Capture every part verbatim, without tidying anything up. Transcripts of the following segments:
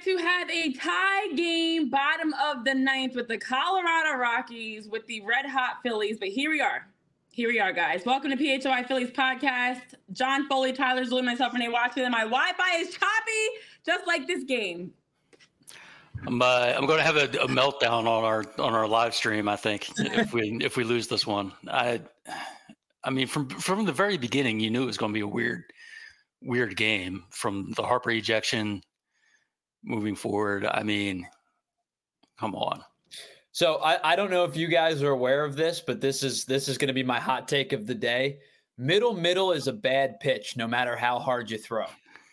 to have a tie game, bottom of the ninth, with the Colorado Rockies with the red hot Phillies. But here we are. Here we are, guys. Welcome to P H O I Phillies podcast. John Foley, Tyler Zulu, myself, Renee Watson. My Wi-Fi is choppy, just like this game. I'm uh, I'm going to have a, a meltdown on our on our live stream. I think if we if we lose this one, I I mean from from the very beginning, you knew it was going to be a weird weird game from the Harper ejection moving forward. I mean, come on. So I, I don't know if you guys are aware of this, but this is this is going to be my hot take of the day. Middle middle is a bad pitch, no matter how hard you throw.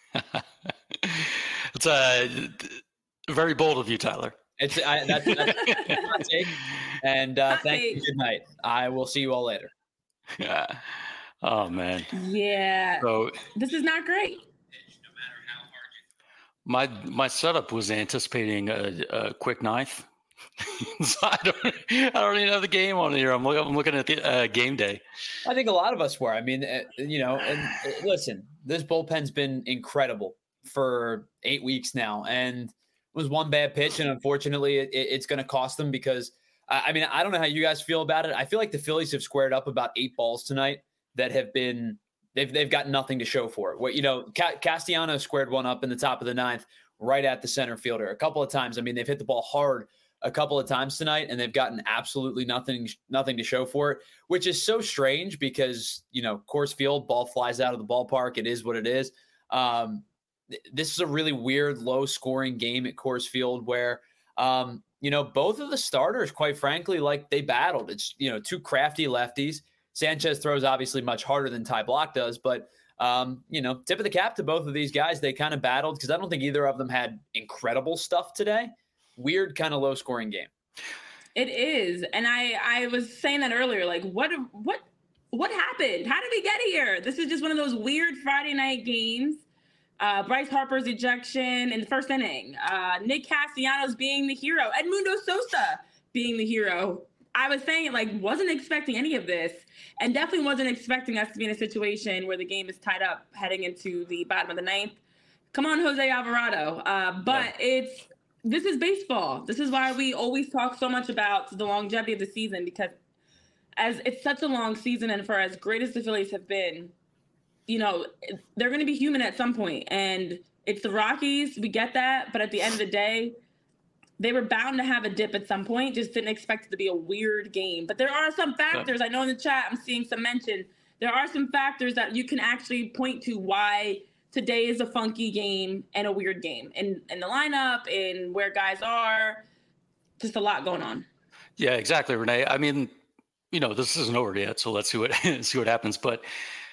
It's a very bold of you, Tyler. It's I, that's, that's my hot take. And uh, thank you. Good night. I will see you all later. Yeah. Oh man. Yeah. So this is not great. My my setup was anticipating a, a quick ninth. So I don't, I don't even have the game on here. I'm, look, I'm looking at the uh, game day. I think a lot of us were. I mean, uh, you know, and uh, listen, this bullpen's been incredible for eight weeks now, and it was one bad pitch, and unfortunately, it, it, it's going to cost them because, uh, I mean, I don't know how you guys feel about it. I feel like the Phillies have squared up about eight balls tonight that have been they've they've got nothing to show for it. What you know, Ca- Castellano squared one up in the top of the ninth, right at the center fielder a couple of times. I mean, they've hit the ball hard a couple of times tonight, and they've gotten absolutely nothing, nothing to show for it, which is so strange because, you know, Coors Field, ball flies out of the ballpark. It is what it is. Um, th- this is a really weird, low scoring game at Coors Field where, um, you know, both of the starters, quite frankly, like they battled. It's, you know, two crafty lefties. Sanchez throws obviously much harder than Ty Block does, but, um, you know, tip of the cap to both of these guys. They kind of battled because I don't think either of them had incredible stuff today. Weird kind of low scoring game. It is. And I, I was saying that earlier, like what, what, what happened? How did we get here? This is just one of those weird Friday night games. Uh, Bryce Harper's ejection in the first inning, uh, Nick Castellanos being the hero, Edmundo Sosa being the hero. I was saying, like, wasn't expecting any of this and definitely wasn't expecting us to be in a situation where the game is tied up heading into the bottom of the ninth. Come on, Jose Alvarado. Uh, but yeah. it's, This is baseball. This is why we always talk so much about the longevity of the season, because as it's such a long season and for as great as the Phillies have been, you know, they're going to be human at some point. And it's the Rockies. We get that. But at the end of the day, they were bound to have a dip at some point. Just didn't expect it to be a weird game. But there are some factors. I know in the chat I'm seeing some mention. There are some factors that you can actually point to why today is a funky game and a weird game in, in the lineup, in where guys are, just a lot going on. Yeah, exactly, Renee. I mean, you know, this isn't over yet, so let's see what see what happens. But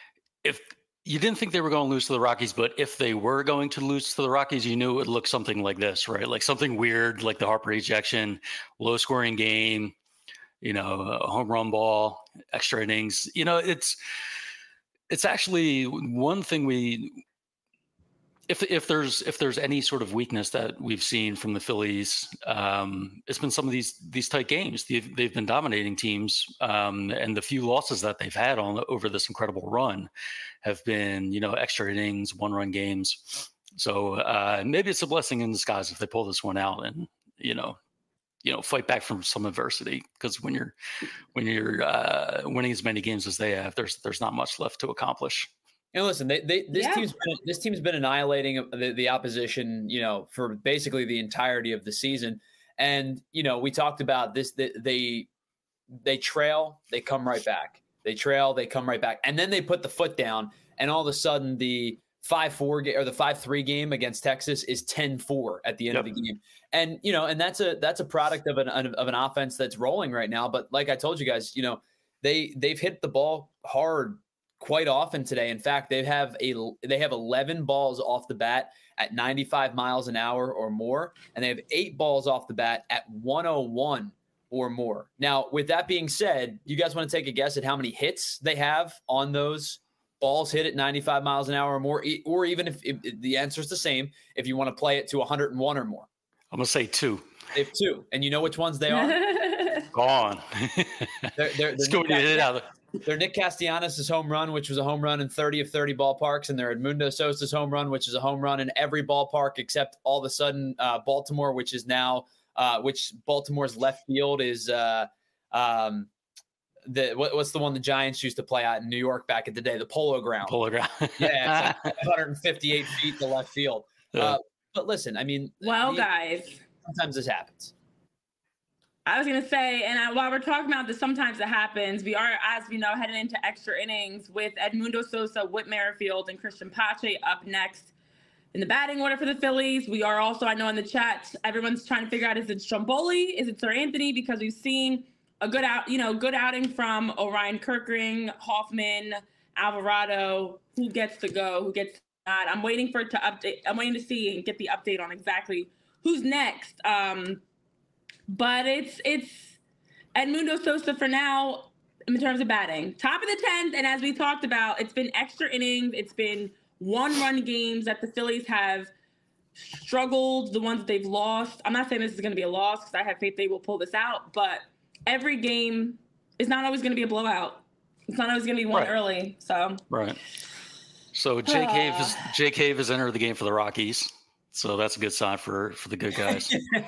if you didn't think they were going to lose to the Rockies, but if they were going to lose to the Rockies, you knew it would look something like this, right? Like something weird, like the Harper ejection, low scoring game, you know, a home run ball, extra innings. You know, it's it's actually one thing we. If if there's if there's any sort of weakness that we've seen from the Phillies, um, it's been some of these these tight games. They've, they've been dominating teams, um, and the few losses that they've had on over this incredible run have been, you know, extra innings, one run games. So uh, maybe it's a blessing in disguise if they pull this one out and you know, you know, fight back from some adversity. Because when you're when you're uh, winning as many games as they have, there's there's not much left to accomplish. And listen, they, they this yeah. team's been, this team's been annihilating the, the opposition, you know, for basically the entirety of the season. And you know, we talked about this. They they, they trail, they come right back. They trail, they come right back, and then they put the foot down, and all of a sudden the five four or the five three game against Texas is ten four at the end yep. of the game. And you know, and that's a that's a product of an of an offense that's rolling right now. But like I told you guys, you know, they they've hit the ball hard quite often today. In fact, they have a they have eleven balls off the bat at ninety-five miles an hour or more, and they have eight balls off the bat at one oh one or more. Now, with that being said, you guys want to take a guess at how many hits they have on those balls hit at ninety-five miles an hour or more, or even if, if the answer is the same, if you want to play it to one hundred one or more? I'm gonna say two. They have two, and you know which ones they are? Gone. they're, they're, Let's go hit it out. their Nick Castellanos' home run, which was a home run in thirty of thirty ballparks, and their Edmundo Sosa's home run, which is a home run in every ballpark except all of a sudden uh, Baltimore, which is now uh, which Baltimore's left field is uh, um, the what, what's the one the Giants used to play out in New York back in the day, the Polo Ground. Polo Ground. Yeah, it's like one hundred fifty-eight feet to left field. Yeah. Uh, but listen, I mean, well, the, guys, sometimes this happens. I was going to say, and I, while we're talking about this, sometimes it happens. We are, as we know, heading into extra innings with Edmundo Sosa, Whit Merrifield, and Christian Pache up next in the batting order for the Phillies. We are also, I know in the chat, everyone's trying to figure out, is it Stromboli? Is it Sir Anthony? Because we've seen a good out, you know, good outing from Orion Kerkering, Hoffman, Alvarado. Who gets to go? Who gets not? I'm waiting for it to update. I'm waiting to see and get the update on exactly who's next. Um, But it's it's Edmundo Sosa for now in terms of batting. Top of the tenth, and as we talked about, it's been extra innings. It's been one-run games that the Phillies have struggled, the ones that they've lost. I'm not saying this is going to be a loss because I have faith they will pull this out, but every game is not always going to be a blowout. It's not always going to be won right. early. So Right. So Jake uh, Cave is Jake Cave has entered the game for the Rockies. So that's a good sign for, for the good guys.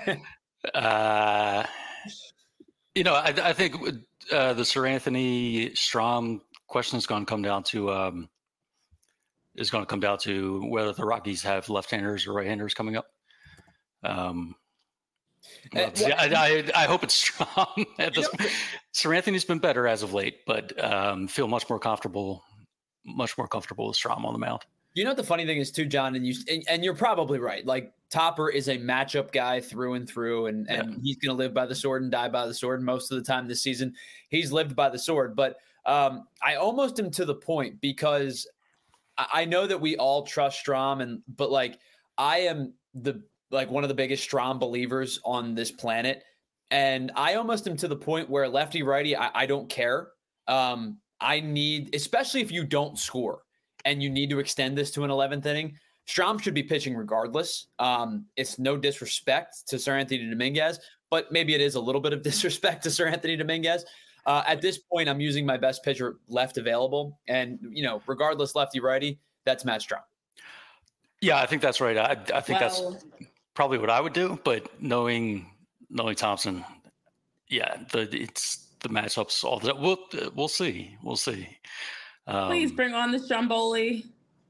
Uh, you know, I, I think uh, the Sir Anthony Strom question is going to come down to um, is going to come down to whether the Rockies have left-handers or right-handers coming up. Um, uh, well, I, I, I hope it's Strom. Sir Anthony's been better as of late, but um, feel much more comfortable, much more comfortable with Strom on the mound. You know what the funny thing is too, John, and you and, and you're probably right. Like Topper is a matchup guy through and through, and, and yeah. he's going to live by the sword and die by the sword. And most of the time this season, he's lived by the sword. But um, I almost am to the point because I know that we all trust Strom, and but like I am the like one of the biggest Strom believers on this planet, and I almost am to the point where lefty righty, I, I don't care. Um, I need, especially if you don't score. And you need to extend this to an eleventh inning, Strom should be pitching regardless. Um, it's no disrespect to Sir Anthony Dominguez, but maybe it is a little bit of disrespect to Sir Anthony Dominguez. Uh, at this point, I'm using my best pitcher left available. And, you know, regardless, lefty, righty, that's Matt Strom. Yeah, I think that's right. I, I think well, that's probably what I would do. But knowing knowing Thompson, yeah, the it's the matchups, all that. We'll, we'll see. We'll see. Um, Please bring on the Stromboli.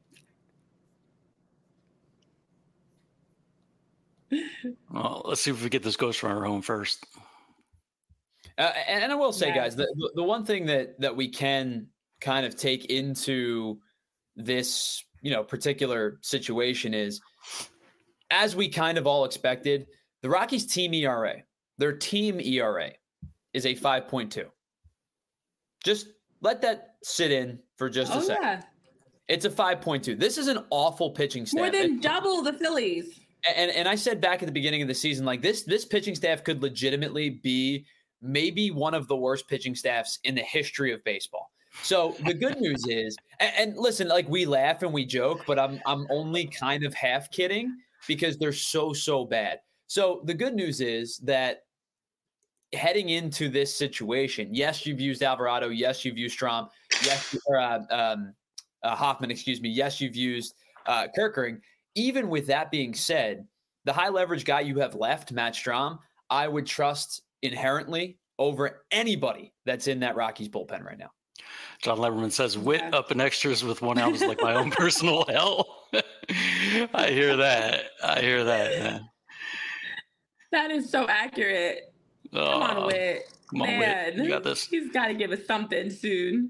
Well, let's see if we get this ghost runner home first. Uh, and, and I will say, yeah. guys, the, the one thing that that we can kind of take into this, you know, particular situation is, as we kind of all expected, the Rockies' team E R A, their team E R A, is a five point two. Just let that sit in for just oh, a second. Yeah. It's a five point two. This is an awful pitching staff. More than it, double the Phillies. And and I said back at the beginning of the season, like this, this pitching staff could legitimately be maybe one of the worst pitching staffs in the history of baseball. So the good news is, and, and listen, like we laugh and we joke, but I'm I'm only kind of half kidding because they're so, so bad. So the good news is that heading into this situation, yes, you've used Alvarado. Yes, you've used Strom. Yes, or, uh, um, uh, Hoffman, excuse me. Yes, you've used uh, Kerkering. Even with that being said, the high leverage guy you have left, Matt Strom, I would trust inherently over anybody that's in that Rockies bullpen right now. John Leverman says, "Wit up in extras with one out is like my own personal hell." I hear that. I hear that. Man. That is so accurate. Oh, come on, Wit. Come on, Man, Wit. You got this. He's got to give us something soon.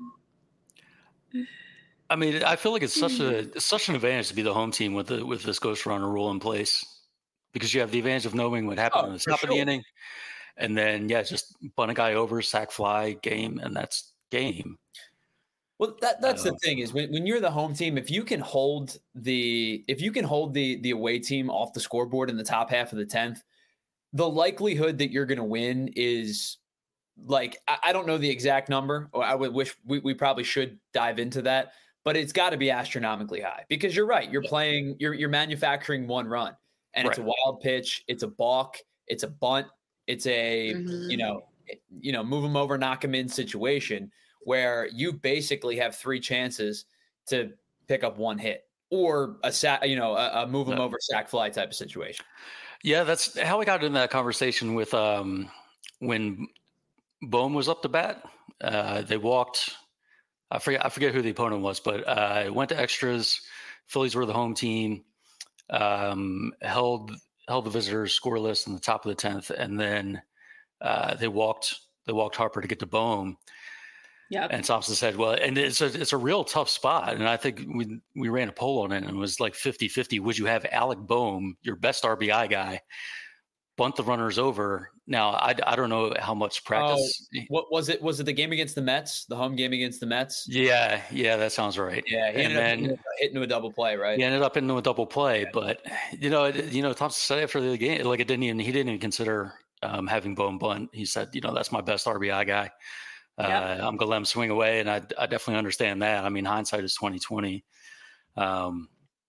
I mean, I feel like it's such a it's such an advantage to be the home team with the with this ghost runner rule in place, because you have the advantage of knowing what happened oh, in the top sure. of the inning, and then yeah, just bunt a guy over, sack fly, game, and that's game. Well, that that's the Uh, thing is when, when you're the home team, if you can hold the if you can hold the the away team off the scoreboard in the top half of the tenth, the likelihood that you're going to win is like I, I don't know the exact number. Or I would wish we, we probably should dive into that. But it's got to be astronomically high because you're right. You're playing, you're you're manufacturing one run, and it's Right. a wild pitch, it's a balk, it's a bunt, it's a Mhm. you know, you know, move them over, knock them in situation where you basically have three chances to pick up one hit or a sack, you know, a, a move them No. over sack fly type of situation. Yeah, that's how we got in that conversation with um, when Bohm was up to bat. Uh, they walked. I forget. I forget who the opponent was, but uh, it went to extras. Phillies were the home team. Um, held held the visitors scoreless in the top of the tenth, and then uh, they walked. They walked Harper to get to Bohm. Yeah. And Thompson said, well, and it's a, it's a real tough spot. And I think we we ran a poll on it and it was like fifty-fifty. Would you have Alec Bohm, your best R B I guy, bunt the runners over? Now, I, I don't know how much practice. Oh, what was it? Was it the game against the Mets? The home game against the Mets? Yeah, yeah, that sounds right. Yeah, he and ended then up hitting to a double play, right? He ended up into a double play. But, you know, it, you know, Thompson said after the game, like it didn't even, he didn't even consider um, having Bohm bunt. He said, you know, that's my best R B I guy. Uh, yep. I'm gonna let him swing away, and I, I definitely understand that. I mean, hindsight is twenty twenty. Um,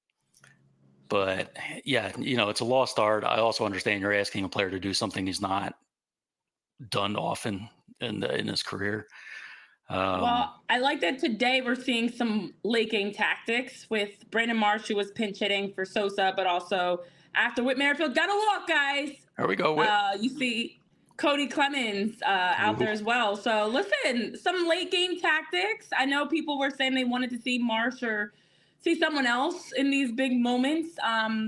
but yeah, you know, it's a lost art. I also understand you're asking a player to do something he's not done often in the, in his career. Um, well, I like that today we're seeing some late game tactics with Brandon Marsh, who was pinch hitting for Sosa, but also after Whit Merrifield got a walk, guys. There we go. Whit. Uh, you see Cody Clemens uh, out Ooh. there as well. So listen, some late game tactics. I know people were saying they wanted to see Marsh or see someone else in these big moments. Um,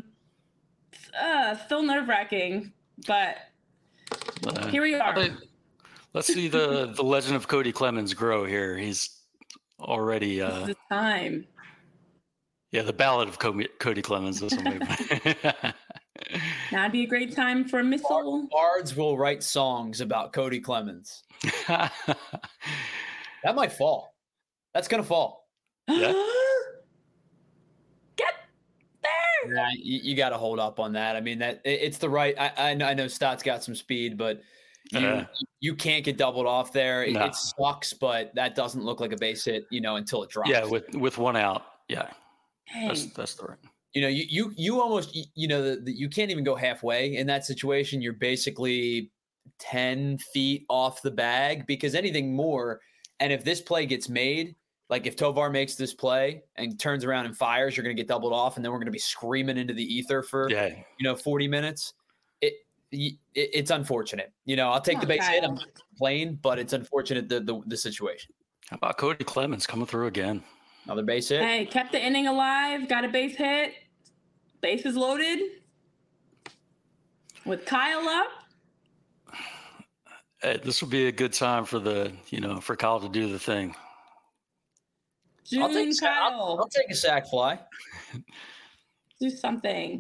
uh, still nerve wracking, but uh, here we are. They, let's see the, the legend of Cody Clemens grow here. He's already uh, this is the time. Yeah, the ballad of Cody, Cody Clemens. This one. That'd be a great time for a missile. Bards will write songs about Cody Clemens. That might fall. That's gonna fall. Yeah. Get there. Yeah, you, you got to hold up on that. I mean, that it, it's the right. I, I know, I know Stott's got some speed, but you uh, you can't get doubled off there. It, no. it sucks, but that doesn't look like a base hit, you know, until it drops. Yeah, with with one out. Yeah, Dang. that's that's the right. You know, you you you almost you know the, the, you can't even go halfway in that situation. You're basically ten feet off the bag because anything more, and if this play gets made, like if Tovar makes this play and turns around and fires, you're going to get doubled off, and then we're going to be screaming into the ether for yeah. you know forty minutes. It, it it's unfortunate. You know, I'll take oh, the base God. hit. I'm playing, but it's unfortunate the, the the situation. How about Cody Clemens coming through again? Another base hit. Hey, kept the inning alive. Got a base hit. Bases loaded with Kyle up. Hey, this would be a good time for the, you know, for Kyle to do the thing. June I'll take, Kyle. I'll, I'll take a sack fly. Do something.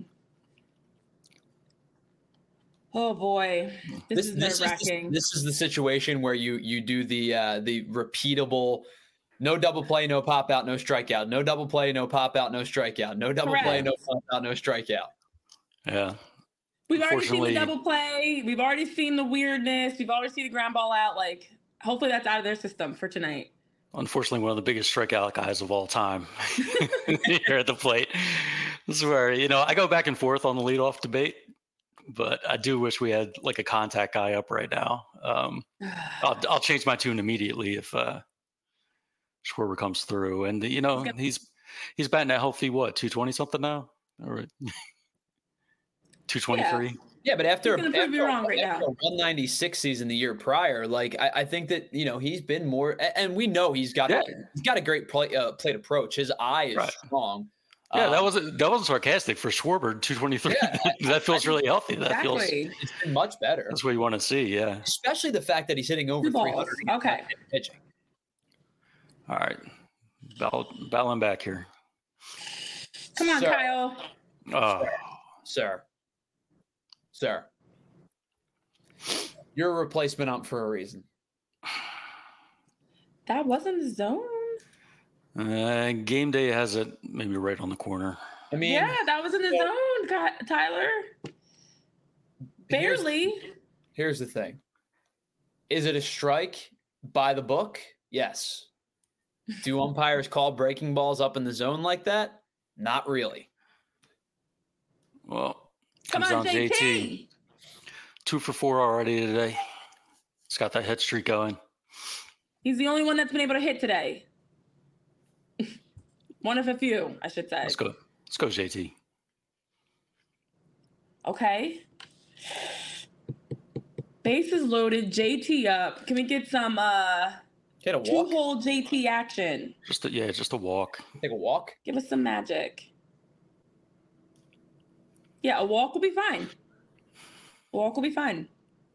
Oh boy, this, this is nerve wracking. This, this is the situation where you you do the uh, the repeatable. No double play, no pop out, no strikeout. No double play, no pop out, no strikeout. No double Correct. play, no pop out, no strikeout. Yeah. We've already seen the double play. We've already seen the weirdness. We've already seen the ground ball out. Like, hopefully that's out of their system for tonight. Unfortunately, one of the biggest strikeout guys of all time here at the plate. This is where, you know, I go back and forth on the leadoff debate, but I do wish we had like a contact guy up right now. Um, I'll, I'll change my tune immediately if uh, Schwarber comes through, and you know he's he's batting at healthy what two twenty something now, or two twenty three. Yeah, but after, he's after, wrong right after now. a one ninety-six season the year prior, like I, I think that you know he's been more, and we know he's got yeah. a, he's got a great play, uh, plate approach. His eye is right. strong. Yeah, um, that wasn't that wasn't sarcastic for Schwarber. two twenty-three. Yeah, that feels really healthy. That exactly. feels it's been much better. That's what you want to see. Yeah, especially the fact that he's hitting over three hundred. Okay, pitching. All right. Battle, battling back here. Come on, Sir. Kyle. Oh. Sir. Sir. You're a replacement ump for a reason. That wasn't the zone? Uh, game day has it maybe right on the corner. I mean, yeah, that was in the yeah. zone, Tyler. Barely. Here's, here's the thing. Is it a strike by the book? Yes. Do umpires call breaking balls up in the zone like that? Not really. Well, come on, on J T. J T. Two for four already today. He's got that hit streak going. He's the only one that's been able to hit today. One of a few, I should say. Let's go. Let's go, J T. Okay. Bases loaded, J T up. Can we get some uh Get a walk. two-hole J T action? Just a, yeah, just a walk. Take a walk. Give us some magic. Yeah, a walk will be fine. A walk will be fine.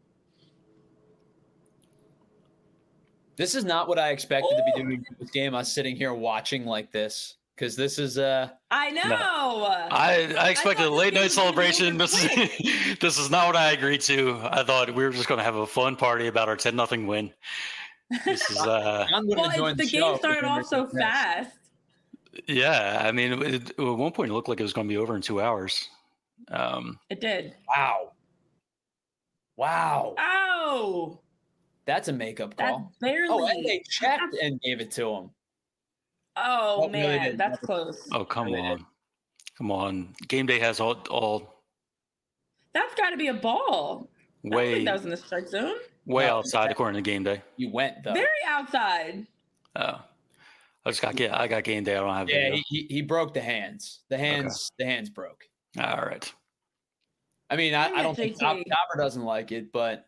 This is not what I expected Ooh. to be doing in this game. I was sitting here watching like this because this is uh I know. No. I I expected a late night celebration. This is this is not what I agreed to. I thought we were just going to have a fun party about our ten nothing win. This is uh. I'm well, join the, the game started off so fast. Yeah, I mean, it, at one point it looked like it was going to be over in two hours. Um, it did. Wow. Wow. Oh. That's a makeup call. That's barely. Oh, and they checked and gave it to him. Oh, oh man, really that's close. Oh, come really on. Did. Come on. Game day has all all. That's got to be a ball. Way. I don't think that was in the strike zone. Way no, outside according to game day. You went though. Very outside. Oh. I just got get I got game day. I don't have Yeah, he, he he broke the hands. The hands okay. the hands broke. All right. I mean, I, I don't think Topper doesn't like it, but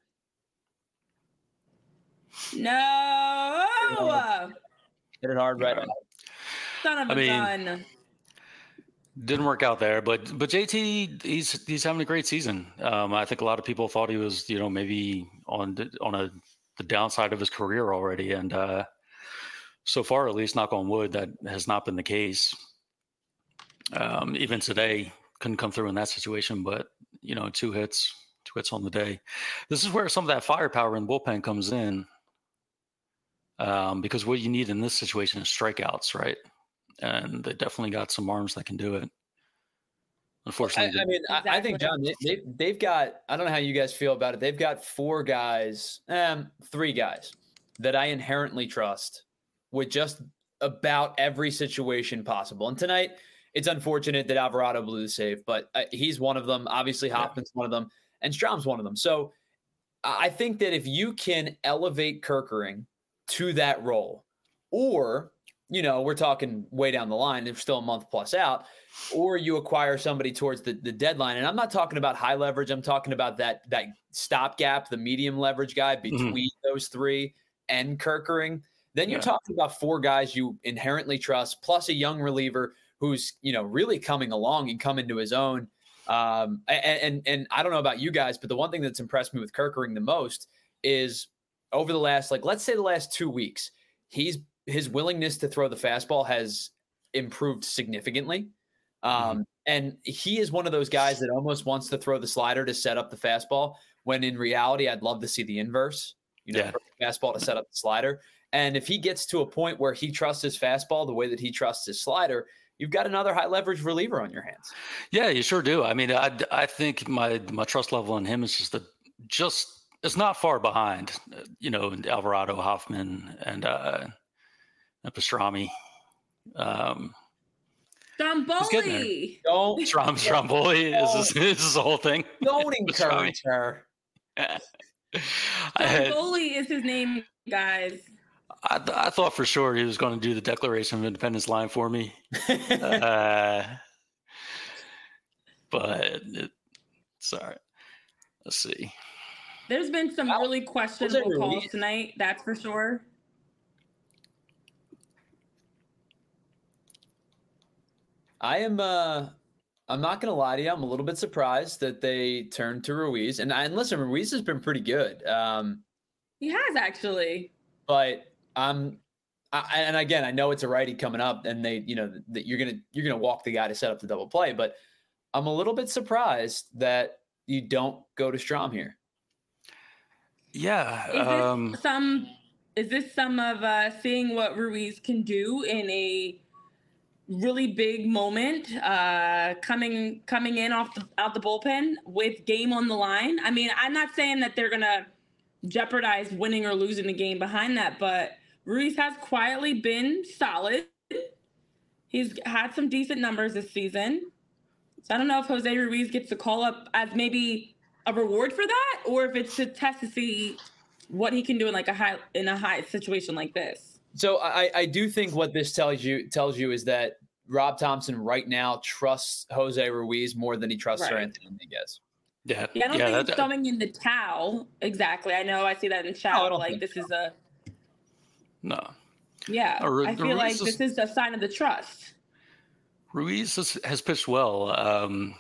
no. Hit it hard right right. now. Son of I a mean, gun. Didn't work out there, but but J T he's he's having a great season. Um, I think a lot of people thought he was, you know, maybe on the, on a the downside of his career already, and uh, so far, at least, knock on wood, that has not been the case. Um, even today, couldn't come through in that situation, but you know, two hits, two hits on the day. This is where some of that firepower in the bullpen comes in, um, because what you need in this situation is strikeouts, right? And they definitely got some arms that can do it. Unfortunately, I, I mean, exactly. I, I think John, they, they, they've got. I don't know how you guys feel about it. They've got four guys, um, three guys that I inherently trust with just about every situation possible. And tonight, it's unfortunate that Alvarado blew the save, but uh, he's one of them. Obviously, Hoffman's yeah. one of them, and Strom's one of them. So I think that if you can elevate Kerkering to that role, or you know, we're talking way down the line, they're still a month plus out, or you acquire somebody towards the, the deadline. And I'm not talking about high leverage. I'm talking about that, that stopgap, the medium leverage guy between mm-hmm. those three and Kerkering. Then you're yeah. talking about four guys you inherently trust, plus a young reliever who's, you know, really coming along and coming to his own. Um, and, and, and I don't know about you guys, but the one thing that's impressed me with Kerkering the most is over the last, like, let's say the last two weeks, he's, his willingness to throw the fastball has improved significantly. Um, mm-hmm. And he is one of those guys that almost wants to throw the slider to set up the fastball, when in reality, I'd love to see the inverse, you know, yeah. the fastball to set up the slider. And if he gets to a point where he trusts his fastball the way that he trusts his slider, you've got another high leverage reliever on your hands. Yeah, you sure do. I mean, I, I think my, my trust level in him is just a, just, it's not far behind, you know, Alvarado, Hoffman, and, uh, and Pastrami. Um, Stromboli. Don't Strom, Stromboli is this, is this the whole thing? Don't encourage her. Stromboli is his name, guys. I, I thought for sure he was going to do the Declaration of Independence line for me. uh, but it, sorry. Let's see. There's been some really questionable calls tonight, that's for sure. I am uh I'm not gonna lie to you, I'm a little bit surprised that they turned to Ruiz. And and listen, Ruiz has been pretty good. Um he has actually. But um I, and again, I know it's a righty coming up, and they, you know, that you're gonna you're gonna walk the guy to set up the double play, but I'm a little bit surprised that you don't go to Strom here. Yeah. Is um, this some is this some of uh seeing what Ruiz can do in a really big moment, uh, coming coming in off the out the bullpen with game on the line? I mean, I'm not saying that they're gonna jeopardize winning or losing the game behind that, but Ruiz has quietly been solid. He's had some decent numbers this season. So I don't know if Jose Ruiz gets to call up as maybe a reward for that, or if it's to test to see what he can do in like a high in a high situation like this. So I, I do think what this tells you tells you is that Rob Thompson right now trusts Jose Ruiz more than he trusts Right. Anthony Dominguez. Yeah, Yeah, I don't yeah, think that- it's throwing in the towel exactly. I know I see that in chat. No, I don't like think this so. is a no. yeah. Uh, Ru- I feel Ruiz like is- this is a sign of the trust. Ruiz has, has pitched well. Um,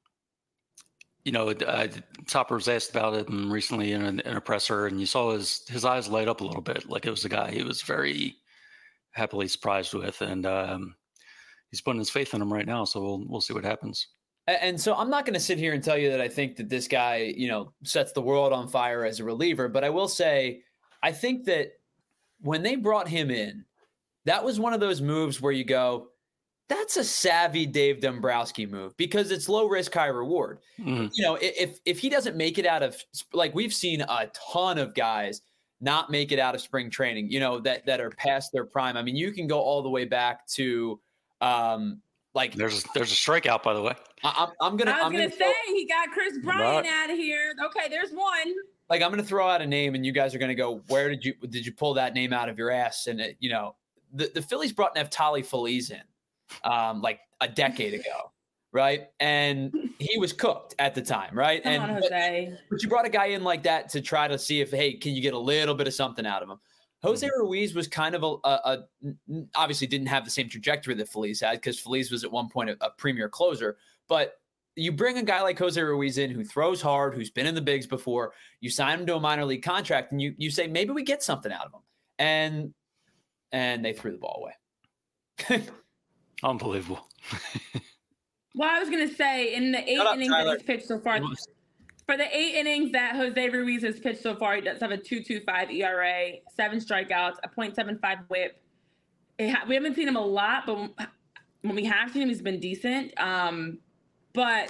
you know, uh, Topper was asked about him recently in, an, in a presser, and you saw his his eyes light up a little bit, like it was a guy he was very happily surprised with, and um, he's putting his faith in him right now. So we'll we'll see what happens. And, and so I'm not going to sit here and tell you that I think that this guy, you know, sets the world on fire as a reliever, but I will say, I think that when they brought him in, that was one of those moves where you go, that's a savvy Dave Dombrowski move because it's low risk, high reward. Mhm. You know, if if he doesn't make it out of, like we've seen a ton of guys not make it out of spring training, you know, that that are past their prime. I mean, you can go all the way back to um like There's a, there's a strikeout, by the way. I, I'm I'm gonna I was I'm gonna, gonna say throw, he got Chris Bryant Right. out of here. Okay, there's one. like I'm gonna throw out a name and you guys are gonna go, where did you did you pull that name out of your ass? And it, you know, the the Phillies brought Neftali Feliz in um like a decade ago. Right. And he was cooked at the time. Right. Come and on, but- Jose. But you brought a guy in like that to try to see if, hey, can you get a little bit of something out of him? Jose Ruiz was kind of a, a, a obviously didn't have the same trajectory that Feliz had because Feliz was at one point a, a premier closer. But you bring a guy like Jose Ruiz in who throws hard, who's been in the bigs before. You sign him to a minor league contract, and you you say maybe we get something out of him, and and they threw the ball away. Unbelievable. Well, I was gonna say in the eight Shut up, innings Tyler. that he's pitched so far, for the eight innings that Jose Ruiz has pitched so far, he does have a two point two five E R A, seven strikeouts, a point seven five WHIP. It ha- we haven't seen him a lot, but when we have seen him, he's been decent. Um, but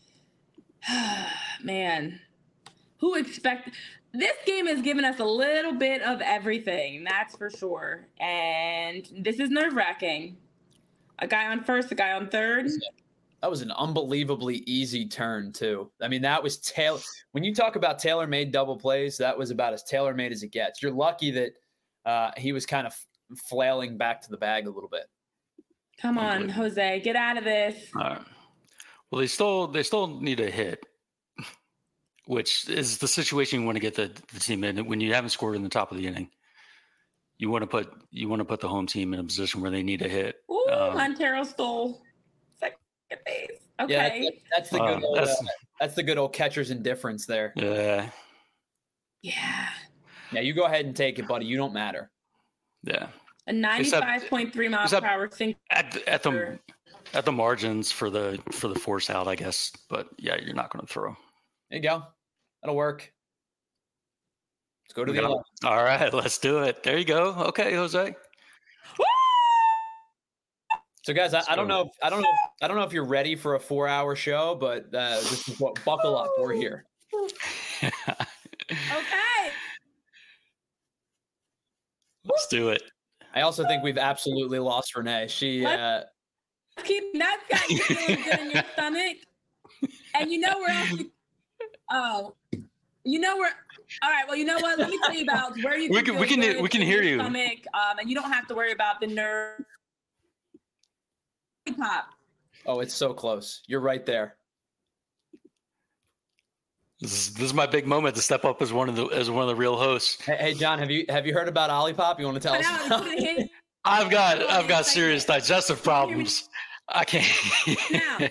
man, who expect this game has given us a little bit of everything, that's for sure. And this is nerve wracking. A guy on first, a guy on third. That was an unbelievably easy turn, too. I mean, that was tailor. When you talk about tailor-made double plays, that was about as tailor-made as it gets. You're lucky that uh, he was kind of flailing back to the bag a little bit. Come on, Jose, get out of this. All right. Well, they still they still need a hit, which is the situation you want to get the, the team in when you haven't scored in the top of the inning. You want to put you want to put the home team in a position where they need a hit. Ooh, Um, Montero stole second base. Yeah, Okay. that- that's the Uh, good old, that's- uh, that's the good old catcher's indifference there. Yeah, Yeah. Yeah, you go ahead and take it, buddy. You don't matter. yeah. A ninety-five point three mile except- per hour sink. At the, at the at the margins for the for the force out, I guess. But yeah, you're not going to throw. There you go. That'll work. Let's go to the Yeah. eleven. All right, let's do it. There you go. Okay, Jose. So, guys, I, I don't go. know. If, I don't know. If, I don't know if you're ready for a four-hour show, but uh, this is what. Buckle up. We're here. Okay. Let's do it. I also think we've absolutely lost Renee. She. Uh, Keep that's got you feeling good in your stomach. And you know where else you, oh. You know where all right, well, you know what? Let me tell you about where you We can can- feel we can- good we can in hear your you. stomach, um, and you don't have to worry about the nerve pop. oh, it's so close. You're right there. This is, this is my big moment to step up as one of the as one of the real hosts. Hey, hey, John, have you have you heard about Olipop? You want to tell But us? now about it's it? gonna hit I've got I've got serious digestive problems. I can't. Now.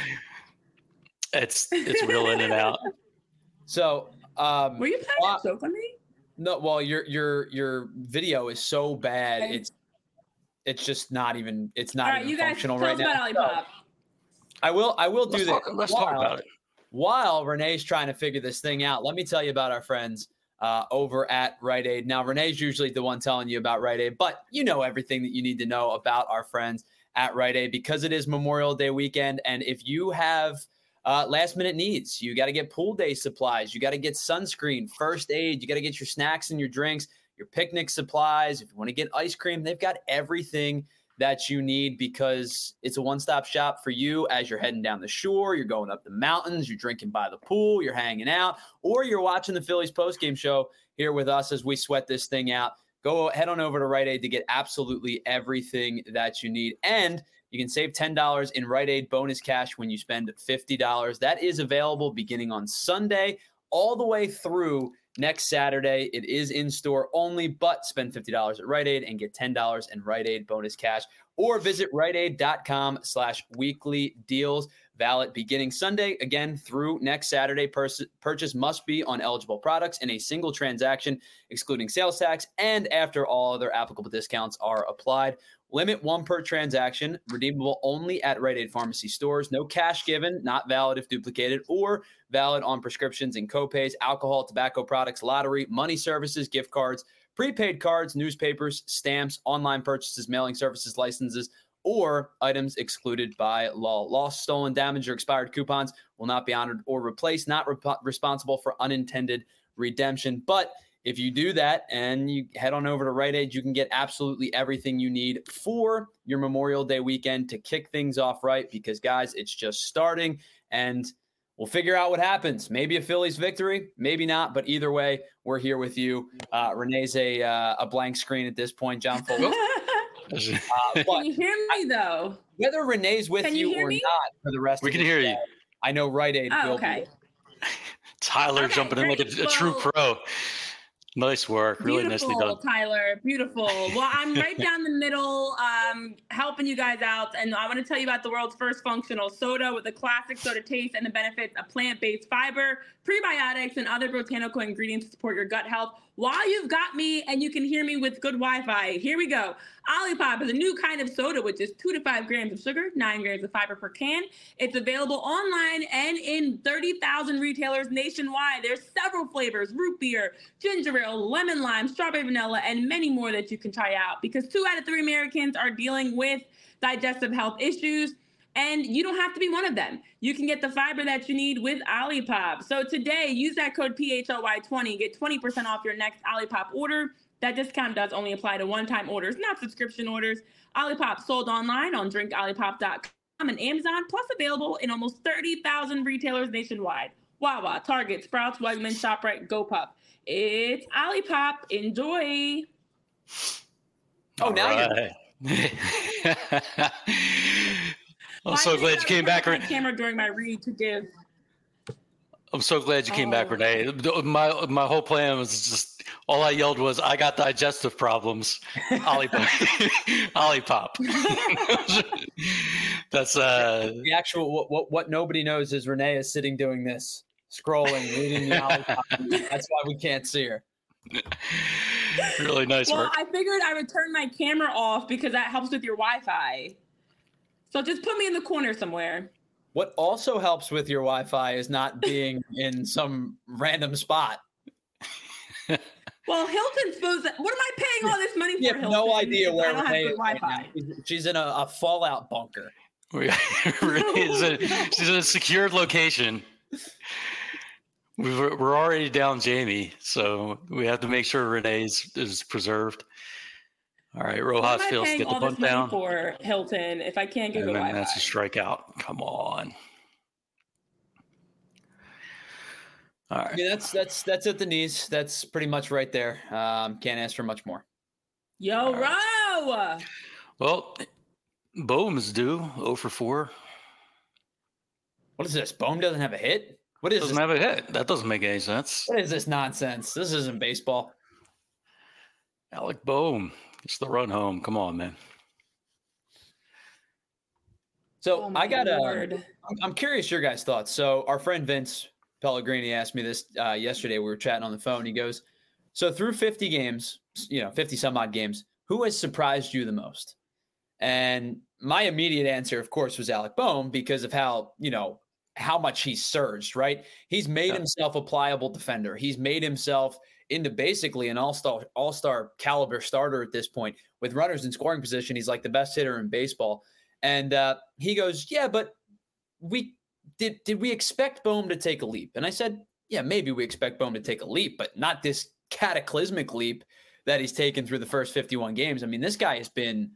it's it's real in and out. So, um, Were you playing Wow. that joke on me? no, well, your your your video is so bad. Okay. It's it's just not even it's not All right, even you guys functional tell right us now. about Olipop. I will I will do Let's this. talk, let's talk while- about it. While Renee's trying to figure this thing out, let me tell you about our friends uh, over at Rite Aid. Now, Renee's usually the one telling you about Rite Aid, but you know everything that you need to know about our friends at Rite Aid because it is Memorial Day weekend. And if you have uh, last minute needs, you got to get pool day supplies, you got to get sunscreen, first aid, you got to get your snacks and your drinks, your picnic supplies. If you want to get ice cream, they've got everything that you need, because it's a one-stop shop for you as you're heading down the shore, you're going up the mountains, you're drinking by the pool, you're hanging out, or you're watching the Phillies postgame show here with us as we sweat this thing out. Go head on over to Rite Aid to get absolutely everything that you need. And you can save ten dollars in Rite Aid bonus cash when you spend fifty dollars. That is available beginning on Sunday all the way through next Saturday. It is in-store only, but spend fifty dollars at Rite Aid and get ten dollars in Rite Aid bonus cash. Or visit riteaid.com slash weekly deals. Valid beginning Sunday, again, through next Saturday. Purs- purchase must be on eligible products in a single transaction, excluding sales tax, and after all other applicable discounts are applied. Limit one per transaction, redeemable only at Rite Aid pharmacy stores. No cash given, not valid if duplicated, or valid on prescriptions and copays, alcohol, tobacco products, lottery, money services, gift cards, prepaid cards, newspapers, stamps, online purchases, mailing services, licenses, or items excluded by law. Lost, stolen, damaged, or expired coupons will not be honored or replaced, not rep- responsible for unintended redemption. But if you do that and you head on over to Rite Aid, you can get absolutely everything you need for your Memorial Day weekend to kick things off right, because, guys, it's just starting, and we'll figure out what happens. Maybe a Phillies victory, maybe not, but either way, we're here with you. Uh, Renee's a, uh, a blank screen at this point. John Fuller. Uh, can you hear me, though? Whether Renee's with can you, you or me? not for the rest we of can the hear day, you. I know Rite Aid Oh, will okay. be. Tyler Okay, jumping in like a, great. a true Well, pro. Nice work. Really Beautiful, nicely done. Tyler. Beautiful. Well, I'm right down the middle, um, helping you guys out. And I want to tell you about the world's first functional soda with a classic soda taste and the benefits of plant-based fiber, prebiotics, and other botanical ingredients to support your gut health. While you've got me and you can hear me with good Wi-Fi, here we go. Olipop is a new kind of soda with just two to five grams of sugar, nine grams of fiber per can. It's available online and in thirty thousand retailers nationwide. There's several flavors: root beer, ginger ale, lemon lime, strawberry vanilla, and many more that you can try out, because two out of three Americans are dealing with digestive health issues. And you don't have to be one of them. You can get the fiber that you need with Olipop. So today, use that code P H L Y twenty. Get twenty percent off your next Olipop order. That discount does only apply to one-time orders, not subscription orders. Olipop sold online on drink olipop dot com and Amazon, plus available in almost thirty thousand retailers nationwide. Wawa, Target, Sprouts, Wegmans, ShopRite, GoPuff. It's Olipop. Enjoy. Oh, All now right. you're I'm Why so did glad I you came turn back. my Ren- camera during my read to give. I'm so glad you came back, Oh. Renee. My my whole plan was just, all I yelled was, "I got digestive problems." Olipop. Olipop. That's uh. The actual what, what what nobody knows is Renee is sitting doing this, scrolling, reading the Olipop. That's why we can't see her. Really nice Well, work. I figured I would turn my camera off because that helps with your Wi-Fi. So just put me in the corner somewhere. What also helps with your Wi-Fi is not being in some random spot. Well, Hilton's supposed to, what am I paying all this money for, You have Hilton? no idea if where I don't Renee have is good right Wi-Fi. now. She's- She's in a, a fallout bunker. We- Renee's in, she's in a secured location. We've, we're already down Jamie, so we have to make sure Renee's is preserved. All right, What Rojas am I Fields, paying get the all this bunt money down. for, Hilton, if I can't get And good then Wi-Fi? that's a strikeout. Come on. All I right. mean, that's that's that's at the knees. That's pretty much right there. Um, can't ask for much more. Yo, All Ro! Well, Bohm is due oh for four. What is this? Bohm doesn't have a hit? What is Doesn't this? have a hit. That doesn't make any sense. What is this nonsense? This isn't baseball. Alec Bohm gets the run home. Come on, man. So Oh, my I got a. Lord. I'm, I'm curious your guys' thoughts. So our friend Vince Pellegrini asked me this uh, yesterday. We were chatting on the phone. He goes, "So through fifty games, you know, fifty some odd games, who has surprised you the most?" And my immediate answer, of course, was Alec Bohm, because of how, you know, how much he's surged, right? He's made Yeah. himself a pliable defender. He's made himself into basically an all-star, all-star caliber starter at this point. With runners in scoring position, he's like the best hitter in baseball. And uh, he goes, yeah, but we did, did we expect Bohm to take a leap? And I said, yeah, maybe we expect Bohm to take a leap, but not this cataclysmic leap that he's taken through the first fifty-one games. I mean, this guy has been,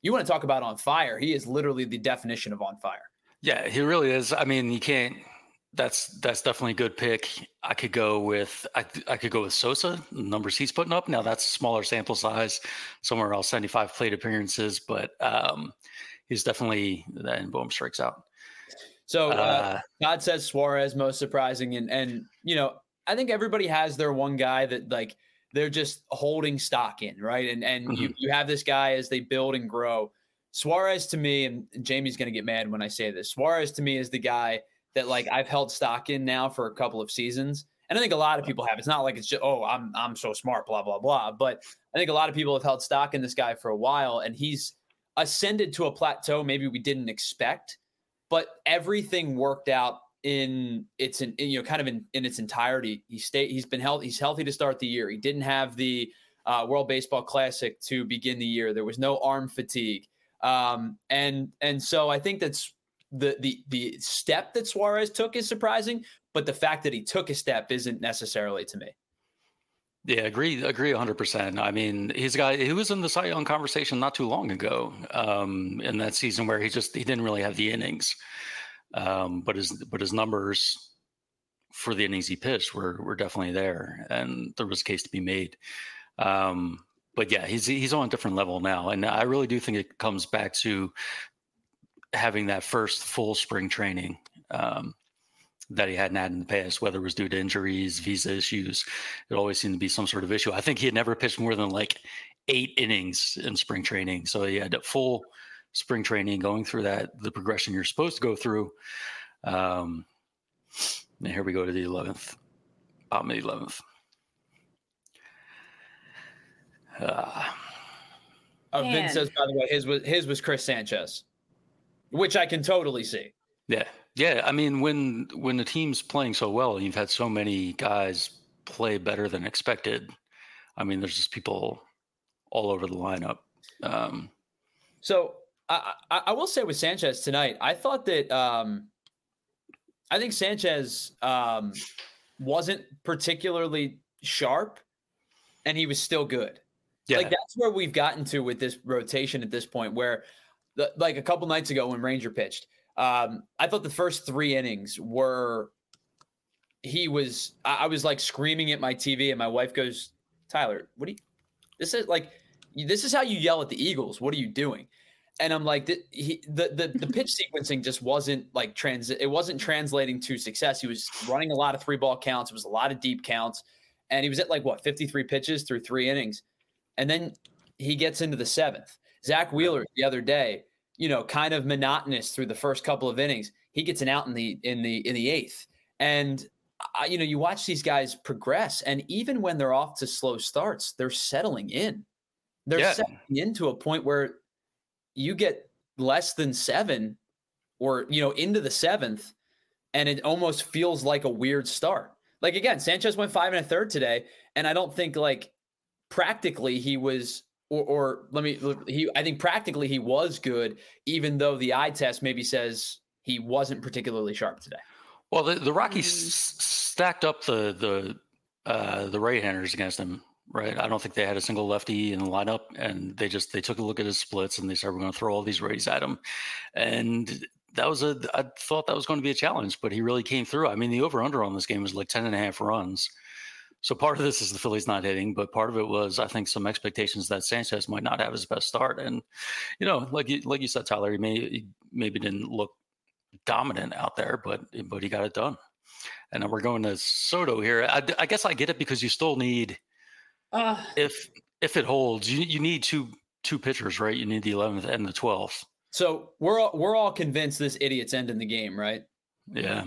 you want to talk about on fire. He is literally the definition of on fire. Yeah, he really is. I mean, you can't. That's that's definitely a good pick. I could go with I I could go with Sosa. The numbers he's putting up now. That's smaller sample size. Somewhere else, seventy-five plate appearances, but um, he's definitely then boom strikes out. So uh, uh, Todd says Suarez most surprising, and and you know I think everybody has their one guy that like they're just holding stock in, right? And and mm-hmm. you you have this guy as they build and grow. Suarez to me, and Jamie's going to get mad when I say this. Suarez to me is the guy that like I've held stock in now for a couple of seasons. And I think a lot of people have. It's not like it's just, oh, I'm I'm so smart, blah, blah, blah. But I think a lot of people have held stock in this guy for a while, and he's ascended to a plateau maybe we didn't expect, but everything worked out in its in, you know kind of in, in its entirety. He stayed he's been healthy, he's healthy to start the year. He didn't have the uh, World Baseball Classic to begin the year. There was no arm fatigue. Um, and and so I think that's the the the step that Suarez took is surprising, but the fact that he took a step isn't necessarily to me. Yeah, agree, agree one hundred percent. I mean, he's a guy who was in the Cy Young conversation not too long ago um, in that season where he just he didn't really have the innings, um, but his but his numbers for the innings he pitched were were definitely there, and there was a case to be made. Um, But yeah, he's he's on a different level now, and I really do think it comes back to having that first full spring training um, that he hadn't had in the past, whether it was due to injuries, visa issues. It always seemed to be some sort of issue. I think he had never pitched more than like eight innings in spring training, so he had a full spring training going through that the progression you're supposed to go through. Um, and here we go to the eleventh, bottom of the eleventh. Uh, oh, Vince says, by the way, his was his was Chris Sanchez, which I can totally see. Yeah, yeah. I mean, when when the team's playing so well, you've had so many guys play better than expected. I mean, there's just people all over the lineup. Um, so I, I, I will say with Sanchez tonight, I thought that um, I think Sanchez um, wasn't particularly sharp, and he was still good. Yeah. Like that's where we've gotten to with this rotation at this point, where the, like a couple nights ago when Ranger pitched, um, I thought the first three innings were, he was, I, I was like screaming at my T V, and my wife goes, Tyler, what do you, this is like, this is how you yell at the Eagles. What are you doing? And I'm like, the, he, the, the, the pitch sequencing just wasn't like trans, it wasn't translating to success. He was running a lot of three ball counts. It was a lot of deep counts, and he was at like what, fifty-three pitches through three innings. And then he gets into the seventh. Zach Wheeler the other day, you know, kind of monotonous through the first couple of innings. He gets an out in the in the in the eighth. And I, you know, you watch these guys progress, and even when they're off to slow starts, they're settling in. They're yeah. settling into a point where you get less than seven, or you know, into the seventh, and it almost feels like a weird start. Like again, Sanchez went five and a third today, and I don't think like. Practically he was, or, or let me, he, I think practically he was good, even though the eye test maybe says he wasn't particularly sharp today. Well, the, the Rockies mm-hmm. s- stacked up the, the, uh, the right-handers against him, right? I don't think they had a single lefty in the lineup, and they just, they took a look at his splits and they said, we're going to throw all these righties at him. And that was a, I thought that was going to be a challenge, but he really came through. I mean, the over under on this game was like ten and a half runs. So part of this is the Phillies not hitting, but part of it was, I think, some expectations that Sanchez might not have his best start. And, you know, like you, like you said, Tyler, he, may, he maybe didn't look dominant out there, but but he got it done. And then we're going to Soto here. I, I guess I get it because you still need, uh, if if it holds, you, you need two two pitchers, right? You need the eleventh and the twelfth. So we're all, we're all convinced this idiot's ending the game, right? Yeah.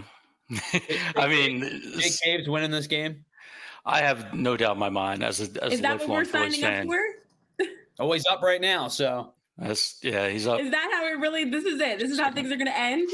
I mean, Jake Cave's winning this game. I have no doubt in my mind as a as is a that what we're signing fan. up for? Oh, he's up right now, so that's yeah, he's up. Is that how it really? This is it. This is how things are going to end.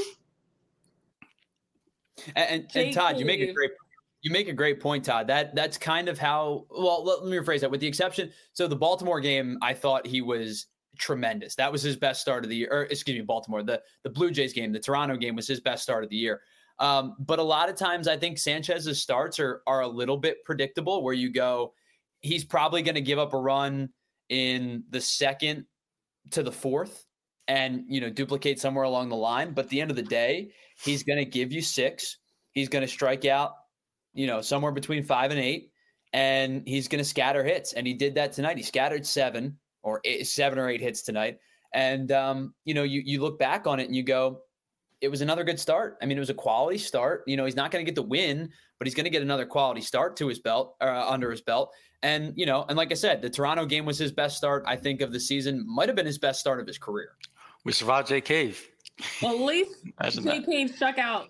And, and, and Todd, you make a great you make a great point, Todd. That that's kind of how. Well, let, let me rephrase that. With the exception, so the Baltimore game, I thought he was tremendous. That was his best start of the year. Or excuse me, Baltimore. The the Blue Jays game, the Toronto game was his best start of the year. Um, but a lot of times I think Sanchez's starts are are a little bit predictable, where you go, he's probably going to give up a run in the second to the fourth and, you know, duplicate somewhere along the line. But at the end of the day, he's going to give you six. He's going to strike out, you know, somewhere between five and eight, and he's going to scatter hits. And he did that tonight. He scattered seven or eight, seven or eight hits tonight. And, um, you know, you, you look back on it and you go, it was another good start. I mean, it was a quality start. You know, he's not going to get the win, but he's going to get another quality start to his belt, uh, under his belt. And, you know, and like I said, the Toronto game was his best start, I think, of the season. Might have been his best start of his career. We survived Jay Cave. Well, at least Jay Cave struck out.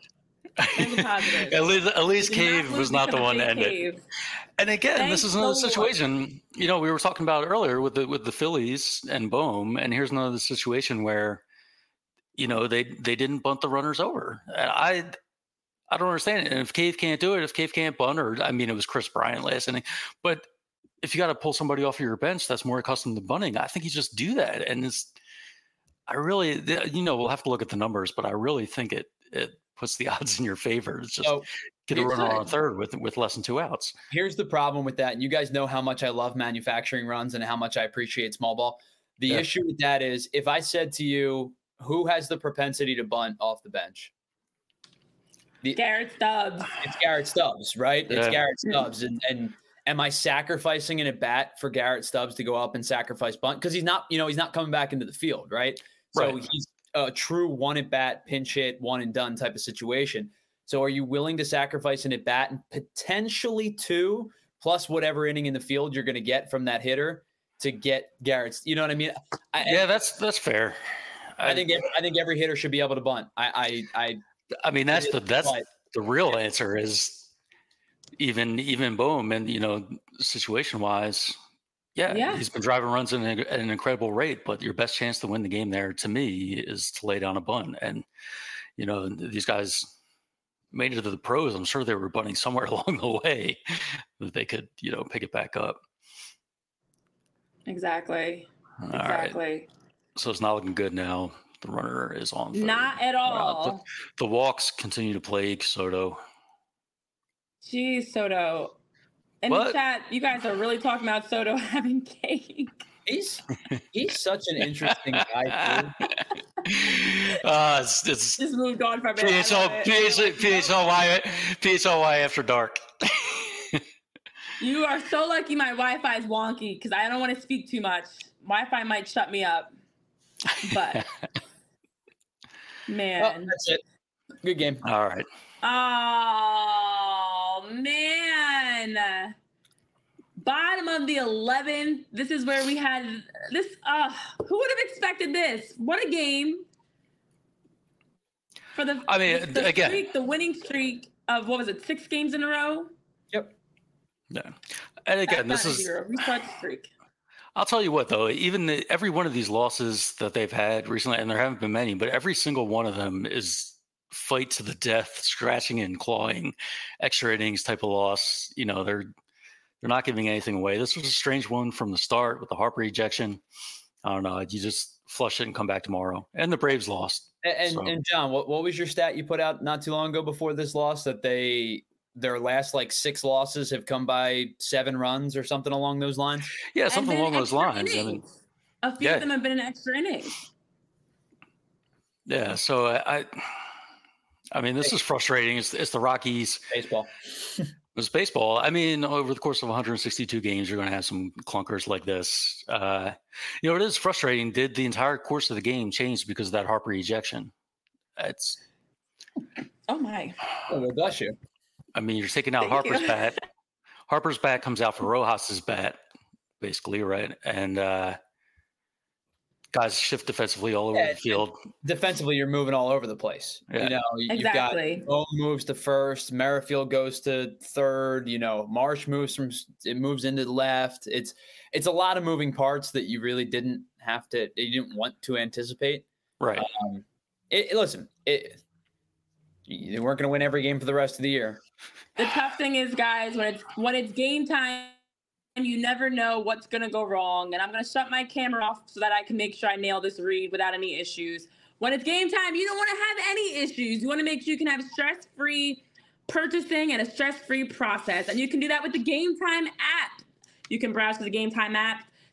at least, at least Cave was not the one to end it. And again, Thanks this is another so situation. much. You know, we were talking about earlier with the with the Phillies and Bohm, and here's another situation where, you know, they they didn't bunt the runners over. And I I don't understand it. And if Cave can't do it, if Cave can't bunt, or I mean, it was Chris Bryant last inning, but if you got to pull somebody off of your bench that's more accustomed to bunting, I think you just do that. And it's, I really, you know, we'll have to look at the numbers, but I really think it it puts the odds in your favor. It's just So, get a here's runner the- on third with with less than two outs. Here's the problem with that. And you guys know how much I love manufacturing runs and how much I appreciate small ball. The Yeah. issue with that is if I said to you, who has the propensity to bunt off the bench? The, Garrett Stubbs. it's Garrett Stubbs, right? It's Yeah. Garrett Stubbs. And, and am I sacrificing an at bat for Garrett Stubbs to go up and sacrifice bunt? Because he's not, you know, he's not coming back into the field, right? So Right. he's a true one at bat, pinch hit, one and done type of situation. So are you willing to sacrifice an at bat and potentially two plus whatever inning in the field you're going to get from that hitter to get Garrett's? You know what I mean? I, Yeah, that's that's fair. I think every, I think every hitter should be able to bunt. I I I, I mean, that's it the is, that's but- the real answer is even even Bohm, and you know, situation wise, yeah, Yeah. he's been driving runs at an, at an incredible rate. But your best chance to win the game there, to me, is to lay down a bunt. And you know, these guys made it to the pros. I'm sure they were bunting somewhere along the way that they could, you know, pick it back up. Exactly. All right, Exactly. so it's not looking good now. The runner is on third. Not at Uh, all. the, the walks continue to plague Soto. Jeez, Soto. In What? the chat, you guys are really talking about Soto having cake. he's he's such an interesting guy. Too. uh, it's, it's Just moved on from it. P H L, P H L, P H L Y, P H L Y after dark. You are so lucky my Wi-Fi is wonky because I don't want to speak too much. Wi-Fi might shut me up. But Well, man. that's it. Good game. All right. Oh man. Bottom of the eleventh. This is where we had this. Uh, who would have expected this? What a game. For the I mean, the again- streak, the winning streak of what was it, six games in a row? Yep. Yeah. And again, That's this not a is, zero. Restart the streak. I'll tell you what, though, even the, every one of these losses that they've had recently, and there haven't been many, but every single one of them is fight to the death, scratching and clawing, extra innings type of loss. You know, they're they're not giving anything away. This was a strange one from the start with the Harper ejection. I don't know. You just flush it and come back tomorrow. And the Braves lost. And and, So- and John, what, what was your stat you put out not too long ago before this loss that they their last like six losses have come by seven runs or something along those lines? Yeah, And something been along those extra lines. I mean, innings. A few yeah. of them have been in extra innings. yeah. So I, I, I mean, this is frustrating. It's, it's the Rockies. Baseball. It's baseball. I mean, over the course of one hundred sixty-two games, you're going to have some clunkers like this. Uh, you know, it is frustrating. Did the entire course of the game change because of that Harper ejection? It's, Oh my. Oh, well, bless you. I mean, you're taking out Thank Harper's you. bat. Harper's bat comes out for Rojas's bat, basically, right? And uh, guys shift defensively all over Yeah, the field. Defensively, you're moving all over the place. Yeah. You know, you- Exactly. you've got Bohm moves to first, Merrifield goes to third. You know, Marsh moves from it moves into the left. It's it's a lot of moving parts that you really didn't have to, you didn't want to anticipate. Right. Um, it, it- listen, it, they weren't going to win every game for the rest of the year. The tough thing is, guys, when it's when it's game time, you never know what's gonna go wrong. And I'm gonna shut my camera off so that I can make sure I nail this read without any issues. When it's game time, you don't want to have any issues. You want to make sure you can have stress-free purchasing and a stress-free process. And you can do that with the Game Time app. You can browse to the Game Time app,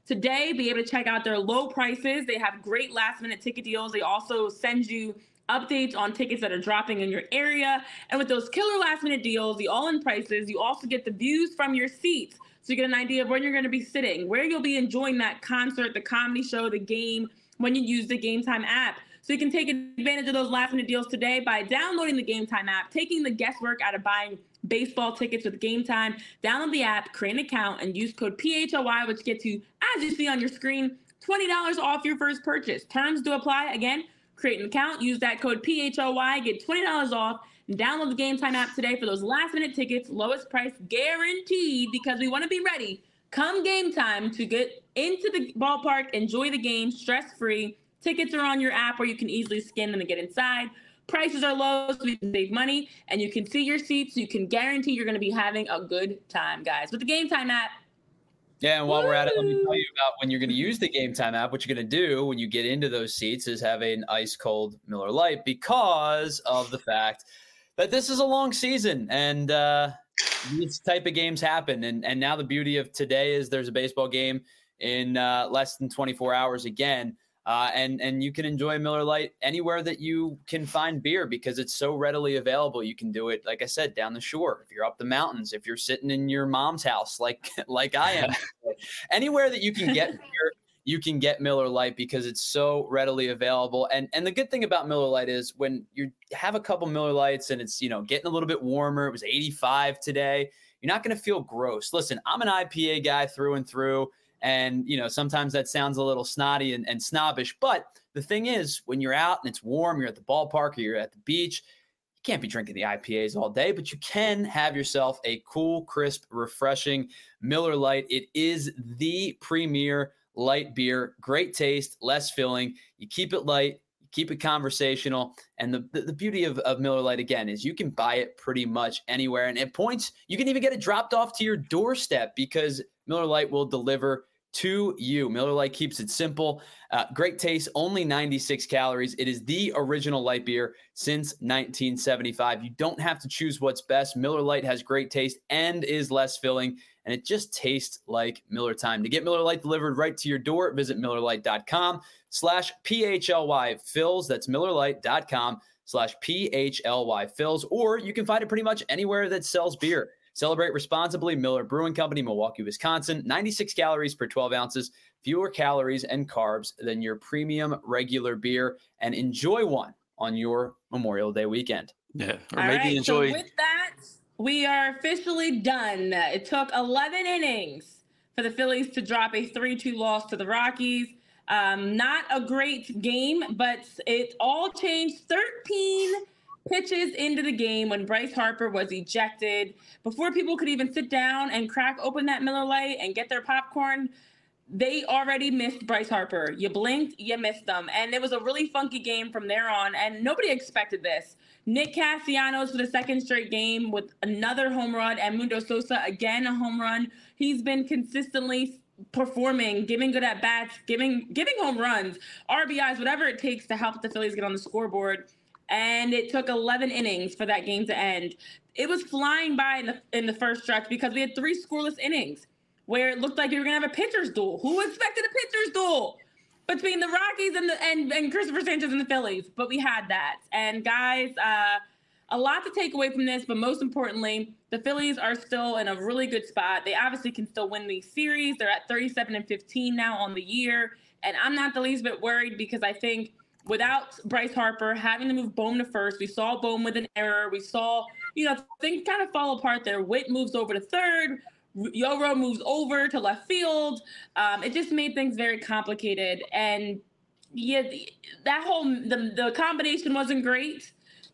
today. Be able to check out their low prices. They have great last minute ticket deals. They also send you updates on tickets that are dropping in your area. And with those killer last minute deals, the all in prices, you also get the views from your seats. So you get an idea of where you're going to be sitting, where you'll be enjoying that concert, the comedy show, the game when you use the Game Time app. So you can take advantage of those last minute deals today by downloading the Game Time app, taking the guesswork out of buying baseball tickets with Game Time. Download the app, create an account, and use code P H O Y, which gets you, as you see on your screen, twenty dollars off your first purchase. Terms do apply. Again, create an account, use that code P H O Y, get twenty dollars off, and download the Game Time app today for those last minute tickets, lowest price guaranteed, because we want to be ready come game time to get into the ballpark, enjoy the game stress-free. Tickets are on your app where you can easily scan them and get inside. Prices are low, so you can save money, and you can see your seats, so you can guarantee you're going to be having a good time, guys. With the Game Time app. Yeah, and while Woo! We're at it, let me tell you about when you're going to use the Game Time app. What you're going to do when you get into those seats is have an ice-cold Miller Lite, because of the fact that this is a long season, and uh, these type of games happen. And, and now the beauty of today is there's a baseball game in uh, less than twenty-four hours again. Uh, and, and you can enjoy Miller Lite anywhere that you can find beer, because it's so readily available. You can do it, like I said, down the shore. If you're up the mountains, if you're sitting in your mom's house, like, like I am, anywhere that you can get beer, you can get Miller Lite, because it's so readily available. And, and the good thing about Miller Lite is when you have a couple Miller Lites and it's, you know, getting a little bit warmer, it was eighty-five today, you're not going to feel gross. Listen, I'm an I P A guy through and through. And, you know, sometimes that sounds a little snotty and, and snobbish. But the thing is, when you're out and it's warm, you're at the ballpark or you're at the beach, you can't be drinking the I P As all day, but you can have yourself a cool, crisp, refreshing Miller Lite. It is the premier light beer. Great taste, less filling. You keep it light. Keep it conversational. And the, the, the beauty of, of Miller Lite, again, is you can buy it pretty much anywhere. And at points, you can even get it dropped off to your doorstep, because Miller Lite will deliver to you. Miller Lite keeps it simple. Uh, great taste, only ninety-six calories. It is the original light beer since nineteen seventy-five. You don't have to choose what's best. Miller Lite has great taste and is less filling, and it just tastes like Miller time. To get Miller Lite delivered right to your door, visit MillerLite.com slash PHLY Fills. That's MillerLite.com slash PHLY Fills. Or you can find it pretty much anywhere that sells beer. Celebrate responsibly. Miller Brewing Company, Milwaukee, Wisconsin. ninety-six calories per twelve ounces, fewer calories and carbs than your premium regular beer. And enjoy one on your Memorial Day weekend. Yeah, or All maybe right, enjoy. So with that, we are officially done. It took eleven innings for the Phillies to drop a three two loss to the Rockies. Um, not a great game, but it all changed. thirteen pitches into the game when Bryce Harper was ejected. Before people could even sit down and crack open that Miller Lite and get their popcorn, they already missed Bryce Harper. You blinked, you missed them. And it was a really funky game from there on, and nobody expected this. Nick Castellanos for the second straight game with another home run, and Mundo Sosa again a home run. He's been consistently performing, giving good at-bats, giving giving home runs, R B Is, whatever it takes to help the Phillies get on the scoreboard. And it took eleven innings for that game to end. It was flying by in the, in the first stretch, because we had three scoreless innings where it looked like you were going to have a pitcher's duel. Who expected a pitcher's duel between the Rockies and, the, and, and Christopher Sanchez and the Phillies? But we had that. And guys, uh, a lot to take away from this, but most importantly, the Phillies are still in a really good spot. They obviously can still win these series. They're at thirty-seven and fifteen now on the year. And I'm not the least bit worried, because I think without Bryce Harper having to move Bohm to first, we saw Bohm with an error. We saw, you know, things kind of fall apart there. Witt moves over to third. Yoro moves over to left field. Um, it just made things very complicated. And yeah, that whole, the, the combination wasn't great.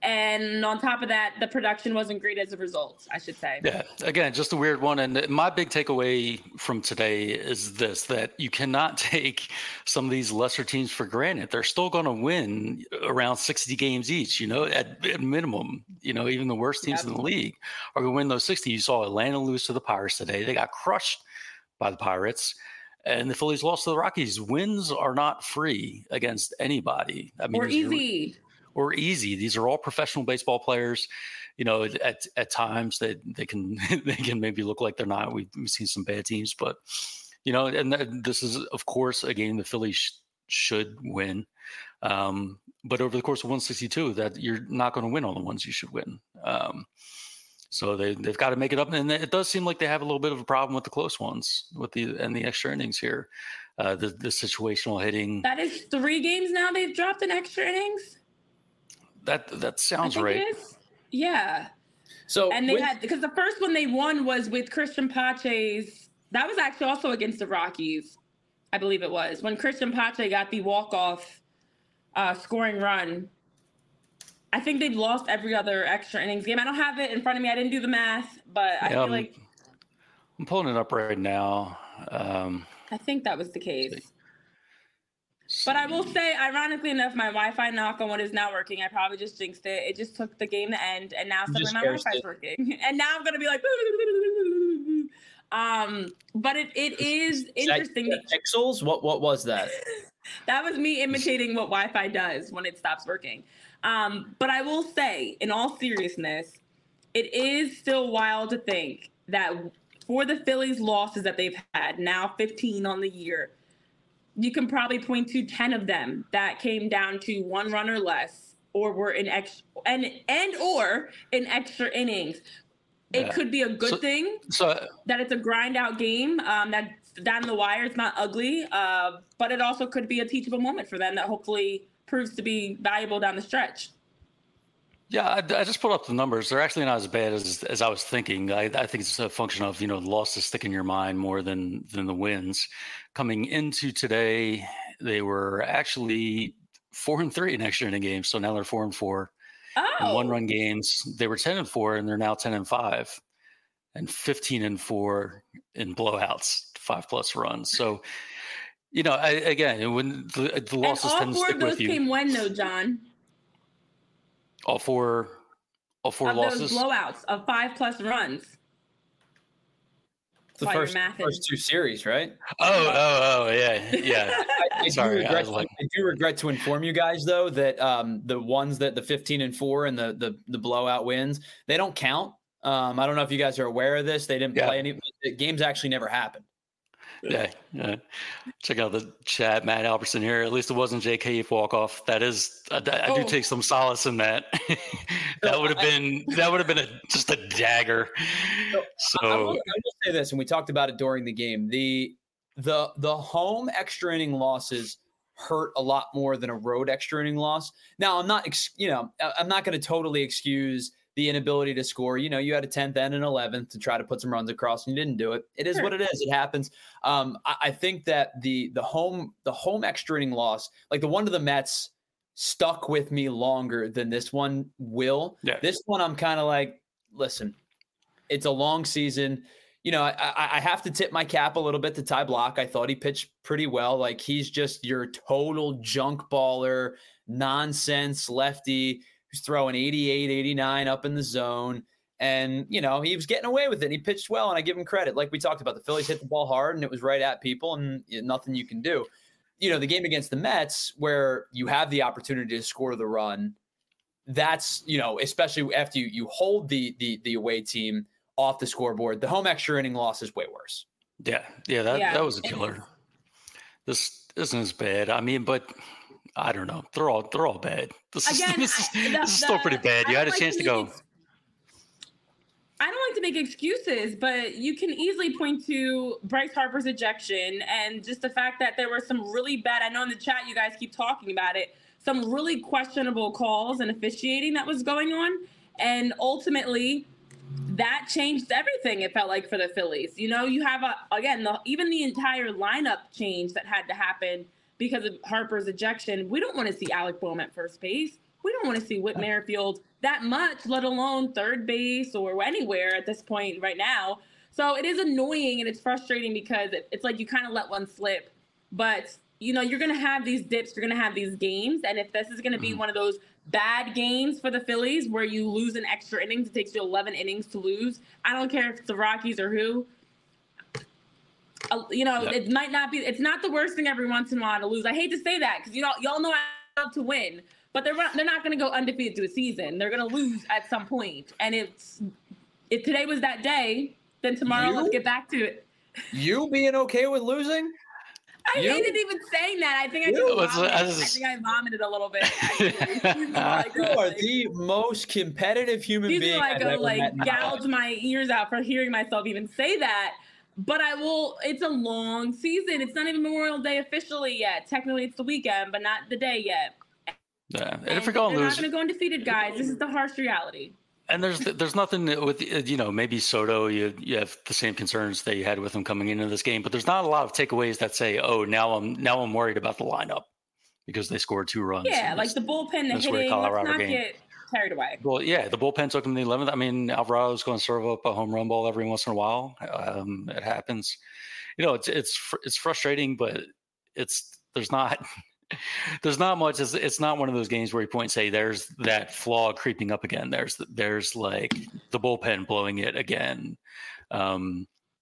And on top of that, the production wasn't great as a result, I should say. Yeah, again, just a weird one. And my big takeaway from today is this, that you cannot take some of these lesser teams for granted. They're still going to win around sixty games each, you know, at, at minimum. You know, even the worst teams yep. in the league are going to win those sixty. You saw Atlanta lose to the Pirates today. They got crushed by the Pirates. And the Phillies lost to the Rockies. Wins are not free against anybody. I mean, or easy. Or easy. These are all professional baseball players. You know, at at times they they can they can maybe look like they're not. We've, we've seen some bad teams, but You know, and th- this is, of course, a game the Phillies sh- should win. Um, but over the course of one sixty-two, that you're not going to win all the ones you should win. Um, so they they've got to make it up, and it does seem like they have a little bit of a problem with the close ones, with the and the extra innings here, uh, the the situational hitting. That is three games now they've dropped in extra innings. That that I sounds think right. it is. Yeah. So And they with- had, because the first one they won was with Christian Pache's, that was actually also against the Rockies, I believe it was, when Christian Pache got the walk-off uh, scoring run. I think they've lost every other extra innings game. I don't have it in front of me. I didn't do the math, but I Yeah, feel I'm- like, I'm pulling it up right now. Um, I think that was the case. let's But I will see. say, ironically enough, my Wi-Fi knock on wood is not working. I probably just jinxed it. It just took the game to end, and now You suddenly just my cursed Wi-Fi's it. working. And now I'm gonna be like, um. But it, it is Is that- interesting. that pixels? What what was that? That was me imitating what Wi-Fi does when it stops working. Um, but I will say, in all seriousness, it is still wild to think that for the Phillies' losses that they've had, now fifteen on the year, you can probably point to ten of them that came down to one run or less, or were in extra and and or in extra innings. It Yeah. could be a good So- thing So that it's a grind out game, um, that's down the wire. It's not ugly, uh, but it also could be a teachable moment for them that hopefully proves to be valuable down the stretch. yeah, I, I just pulled up the numbers. They're actually not as bad as as I was thinking. I, I think it's a function of, you know, the losses stick in your mind more than than the wins. Coming into today, they were actually four and three in extra inning games, so now they're four and four. In Oh, one run games, they were ten and four, and they're now ten and five, and fifteen and four in blowouts, five plus runs. So, you know, I, again, when the, the and losses all tend to four stick of those with you, came when though, John? all four, all four Of losses. those blowouts of five plus runs. The While you're first mathing. first two series, right? Oh, oh, oh, yeah, yeah. I, I Sorry, do I regret, was like- I do regret to inform you guys though that um, the ones that the fifteen and four and the the the blowout wins, they don't count. Um, I don't know if you guys are aware of this. They didn't Yeah. play any the games. Actually, never happened. Yeah, yeah. Check out the chat, Matt Albertson here. At least it wasn't J K walk off. That is, I, I do Oh. take some solace in that. that would have been that would have been a just a dagger. I will, I So will say this, and we talked about it during the game. The the the home extra inning losses hurt a lot more than a road extra inning loss. Now, I'm not, ex- you know, I- I'm not going to totally excuse the inability to score. You know, you had a tenth and an eleventh to try to put some runs across, and you didn't do it. It is Sure. what it is. It happens. Um, I, I think that the the home the home extra inning loss, like the one to the Mets, stuck with me longer than this one will. Yeah. This one, I'm kind of like, listen, it's a long season. You know, I, I, I have to tip my cap a little bit to Ty Block. I thought he pitched pretty well. Like, he's just your total junk baller, nonsense lefty who's throwing eighty-eight, eighty-nine up in the zone. And, you know, he was getting away with it. And he pitched well, and I give him credit. Like we talked about, the Phillies hit the ball hard, and it was right at people, and nothing you can do. You know, the game against the Mets, where you have the opportunity to score the run, that's, you know, especially after you, you hold the, the the away team off the scoreboard, the home extra inning loss is way worse. yeah, yeah, that Yeah. that was a killer. This isn't as bad. I mean, but I don't know. They're all they're all bad. This is Again, this is, I- the- this is still the- pretty bad. I You had don't a like chance to make go. ex- I don't like to make excuses, but you can easily point to Bryce Harper's ejection and just the fact that there were some really bad, I know in the chat you guys keep talking about it, some really questionable calls and officiating that was going on. And ultimately, that changed everything, it felt like, for the Phillies. You know, you have, a, again, the, even the entire lineup change that had to happen because of Harper's ejection. We don't want to see Alec Boehm at first base. We don't want to see Whit Merrifield that much, let alone third base or anywhere at this point right now. So it is annoying and it's frustrating because it, it's like you kind of let one slip. But, you know, you're going to have these dips, you're going to have these games. And if this is going to be Mhm. one of those bad games for the Phillies where you lose an extra innings, it takes you eleven innings to lose. I don't care if it's the Rockies or who. Uh, you know, Yep. it might not be, it's not the worst thing every once in a while to lose. I hate to say that because, you know, y'all know I love to win. But they're not, they're not going to go undefeated through a season. They're going to lose at some point. And it's if today was that day, then tomorrow You? let's get back to it. You being okay with losing? I You? hated even saying that. I think I You? just vomited. I I, just- think I vomited a little bit. Actually. Excuse me while I You go, are like, the most competitive human excuse me being while I I've go, ever like met in my gouge life. my ears out for hearing myself even say that. But I will. It's a long season. It's not even Memorial Day officially yet. Technically, it's the weekend, but not the day yet. Yeah. And, And if we're going they're to not lose, going to go undefeated, guys. This is the harsh reality. and there's there's nothing with you know maybe Soto you you have the same concerns that you had with him coming into this game, but there's not a lot of takeaways that say, oh, now I'm now I'm worried about the lineup because they scored two runs. Yeah, in like this- the bullpen, the this weird hitting. Let's Colorado not game. get carried away. Well, yeah, the bullpen took him the eleventh. I mean, Alvarado's going to serve up a home run ball every once in a while. Um, it happens. You know, it's it's fr- it's frustrating, but it's there's not there's not much. It's, it's not one of those games where you point and say there's that flaw creeping up again. There's there's like the bullpen blowing it again. Um,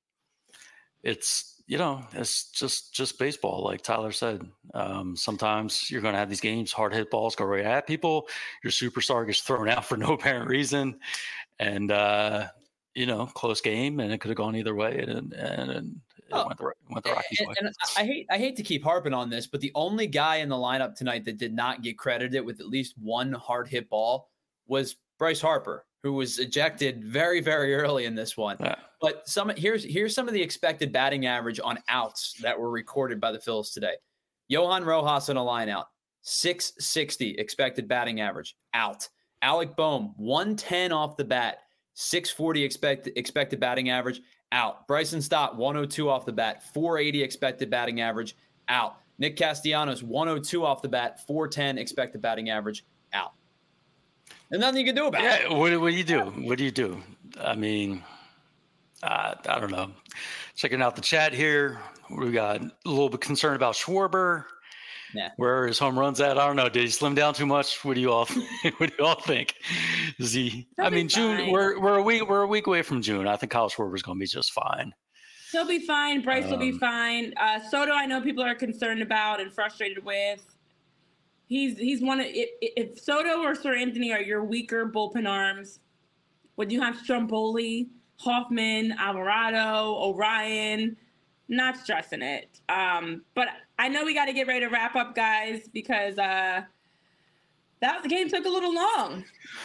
it's you know it's just just baseball, like Tyler said. Um, sometimes you're going to have these games, hard hit balls go right at people. Your superstar gets thrown out for no apparent reason, and uh, you know, close game, and it could have gone either way, and and, and it Oh. went the went the Rockies' And, way. and I hate I hate to keep harping on this, but the only guy in the lineup tonight that did not get credited with at least one hard hit ball was Bryce Harper, who was ejected very, very early in this one. Yeah. But some here's here's some of the expected batting average on outs that were recorded by the Phils today. Johan Rojas on a line out, six sixty expected batting average, out. Alec Boehm, one ten off the bat, six forty expect, expected batting average, out. Bryson Stott, one oh two off the bat, four eighty expected batting average, out. Nick Castellanos, one oh two off the bat, four ten expected batting average, out. And nothing you can do about it. Yeah, what, what do you do? What do you do? I mean, uh, I don't know. Checking out the chat here, we got a little bit concerned about Schwarber. Nah. Where are his home runs at? I don't know. Did he slim down too much? What do you all? What do you all think? Is he? He'll I be mean, June. fine. We're we're a week we're a week away from June. I think Kyle Schwarber's going to be just fine. He'll be fine. Bryce will be Um, fine. Uh, Soto, I know people are concerned about and frustrated with. He's he's one of if, if Soto or Sir Anthony are your weaker bullpen arms, would you have Stromboli, Hoffman, Alvarado, Orion? Not stressing it. Um, but I know we got to get ready to wrap up, guys, because uh, that the game took a little long.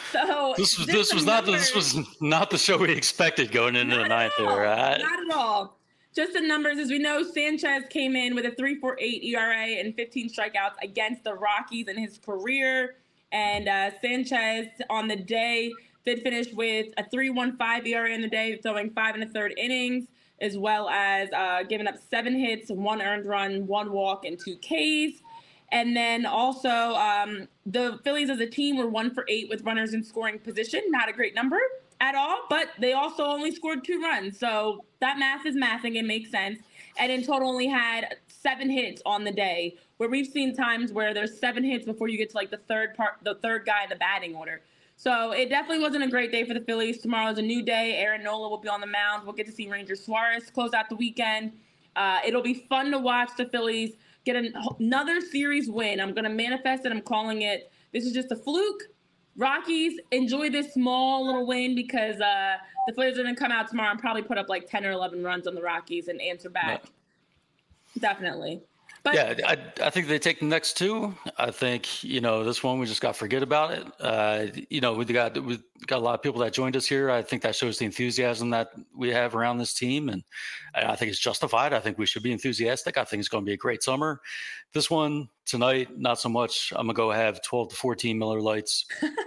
So This was just this some was not the, numbers. this was not the show we expected going into Not the ninth. at all. There, right? Not at all. Just the numbers, as we know, Sanchez came in with a three point four eight E R A and fifteen strikeouts against the Rockies in his career. And uh, Sanchez on the day did finish with a three point one five E R A in the day, throwing five and a third innings, as well as uh, giving up seven hits, one earned run, one walk, and two Ks. And then also um, the Phillies as a team were one for eight with runners in scoring position. Not a great number at all, but they also only scored two runs. So that math is mathing. It makes sense. And in total only had seven hits on the day, where we've seen times where there's seven hits before you get to like the third part, the third guy in the batting order. So it definitely wasn't a great day for the Phillies. Tomorrow's a new day. Aaron Nola will be on the mound. We'll get to see Ranger Suarez close out the weekend. Uh, it'll be fun to watch the Phillies get an, another series win. I'm going to manifest it. I'm calling it. This is just a fluke. Rockies, enjoy this small little win because uh, the Phillies are going to come out tomorrow and probably put up like ten or eleven runs on the Rockies and answer back. Definitely. But Yeah, I, I think they take the next two. I think, you know, this one we just got to forget about it. Uh, you know, we got we got a lot of people that joined us here. I think that shows the enthusiasm that we have around this team, and I think it's justified. I think we should be enthusiastic. I think it's going to be a great summer. This one tonight, not so much. I'm gonna go have twelve to fourteen Miller Lights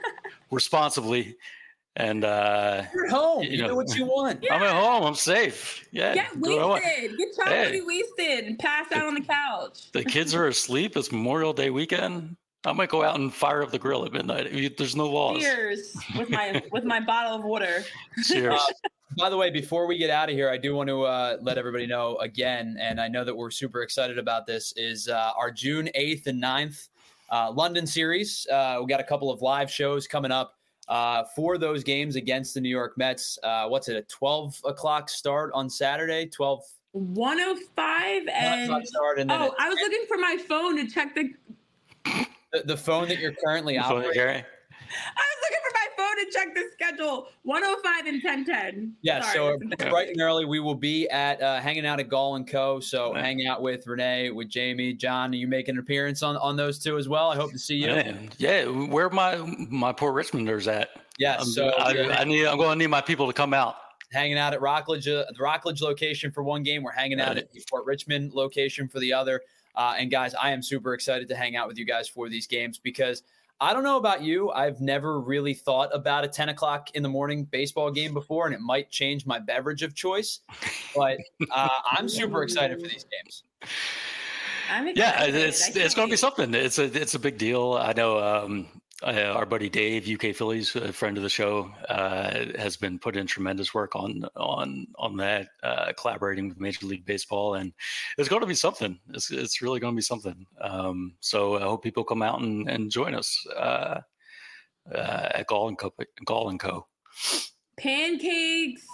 responsibly, and uh, You're at home. You You, know. do what you want. I'm at home. I'm safe. Yeah, get do what I want. wasted. Get chocolatey Hey. wasted and pass out on the couch. The kids are asleep. It's Memorial Day weekend. I might go out and fire up the grill at midnight. I mean, there's no laws. Cheers with my with my bottle of water. Cheers. Uh, By the way, before we get out of here, I do want to uh, let everybody know again, and I know that we're super excited about this, is uh, our June eighth and ninth uh, London series. Uh, we got a couple of live shows coming up uh, for those games against the New York Mets. Uh, what's it, a twelve o'clock start on Saturday? twelve one oh five and start, and then oh, it- I was looking for my phone to check the. the, the phone that you're currently You phone it, operating. Gary? I was looking for my phone to check the schedule. one oh five and ten ten. Yeah, Sorry, so bright and early, we will be at uh, hanging out at Gall and Co. So right. hang out with Renee, with Jamie, John. Are you making an appearance on, on those two as well? I hope to see you. Man, yeah, where my my poor Richmonders at? Yeah, I'm, so I, yeah. I need. I'm going to need my people to come out. Hanging out at Rockledge, uh, the Rockledge location for one game. We're hanging out at the Fort Richmond location for the other. Uh, and guys, I am super excited to hang out with you guys for these games because I don't know about you. I've never really thought about a ten o'clock in the morning baseball game before, and it might change my beverage of choice. But uh, I'm super excited for these games. I'm yeah, it's it's going to be something. It's a it's a big deal. I know. Um, Uh, our buddy Dave, U K Phillies, a friend of the show, uh, has been putting in tremendous work on on on that, uh, collaborating with Major League Baseball, and it's going to be something. It's it's really going to be something. Um, so I hope people come out and, and join us uh, uh, at Gall and Co. Gall and Co. Pancakes,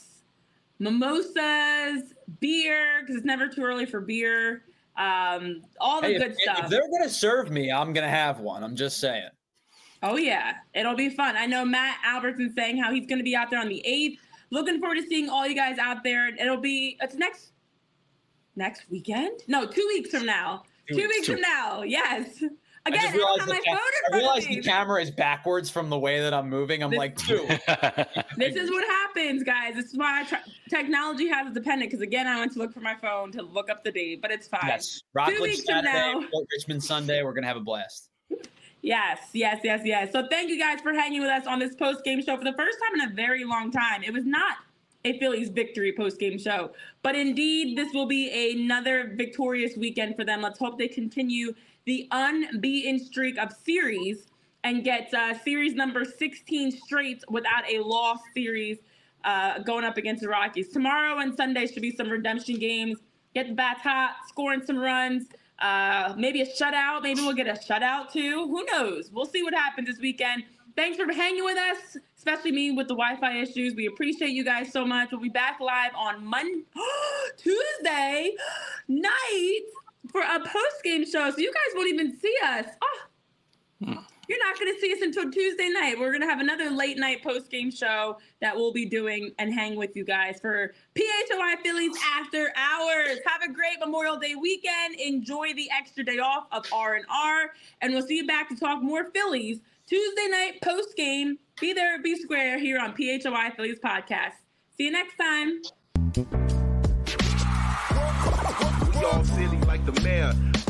mimosas, beer because it's never too early for beer. Um, all the hey, good if, stuff. If they're going to serve me, I'm going to have one. I'm just saying. Oh, yeah. It'll be fun. I know Matt Albertson saying how he's going to be out there on the eighth. Looking forward to seeing all you guys out there. It'll be, it's next, next weekend? No, two weeks from now. Two, two weeks two. from now. Yes. Again, I, I don't have my ca- phone in I realize front of the camera is backwards from the way that I'm moving. I'm this, like, two. This is what happens, guys. This is why I try, technology has its dependent. Because again, I went to look for my phone to look up the date, but it's fine. Yes. Rockledge Saturday, now. Fort Richmond Sunday. We're going to have a blast. Yes, yes, yes, yes. So thank you guys for hanging with us on this post-game show for the first time in a very long time. It was not a Phillies victory post-game show, but indeed this will be another victorious weekend for them. Let's hope they continue the unbeaten streak of series and get uh, series number sixteen straight without a lost series uh, going up against the Rockies. Tomorrow and Sunday should be some redemption games. Get the bats hot, scoring some runs. Uh, maybe a shutout. Maybe we'll get a shutout too. Who knows? We'll see what happens this weekend. Thanks for hanging with us, especially me with the Wi-Fi issues. We appreciate you guys so much. We'll be back live on Monday, Tuesday night for a post-game show. So you guys won't even see us. Oh, hmm. You're not going to see us until Tuesday night. We're going to have another late night post-game show that we'll be doing and hang with you guys for P H O I Phillies After Hours. Have a great Memorial Day weekend. Enjoy the extra day off of R and R. And we'll see you back to talk more Phillies Tuesday night post-game. Be there, be square here on P H O I Phillies Podcast. See you next time. We all silly like the mayor.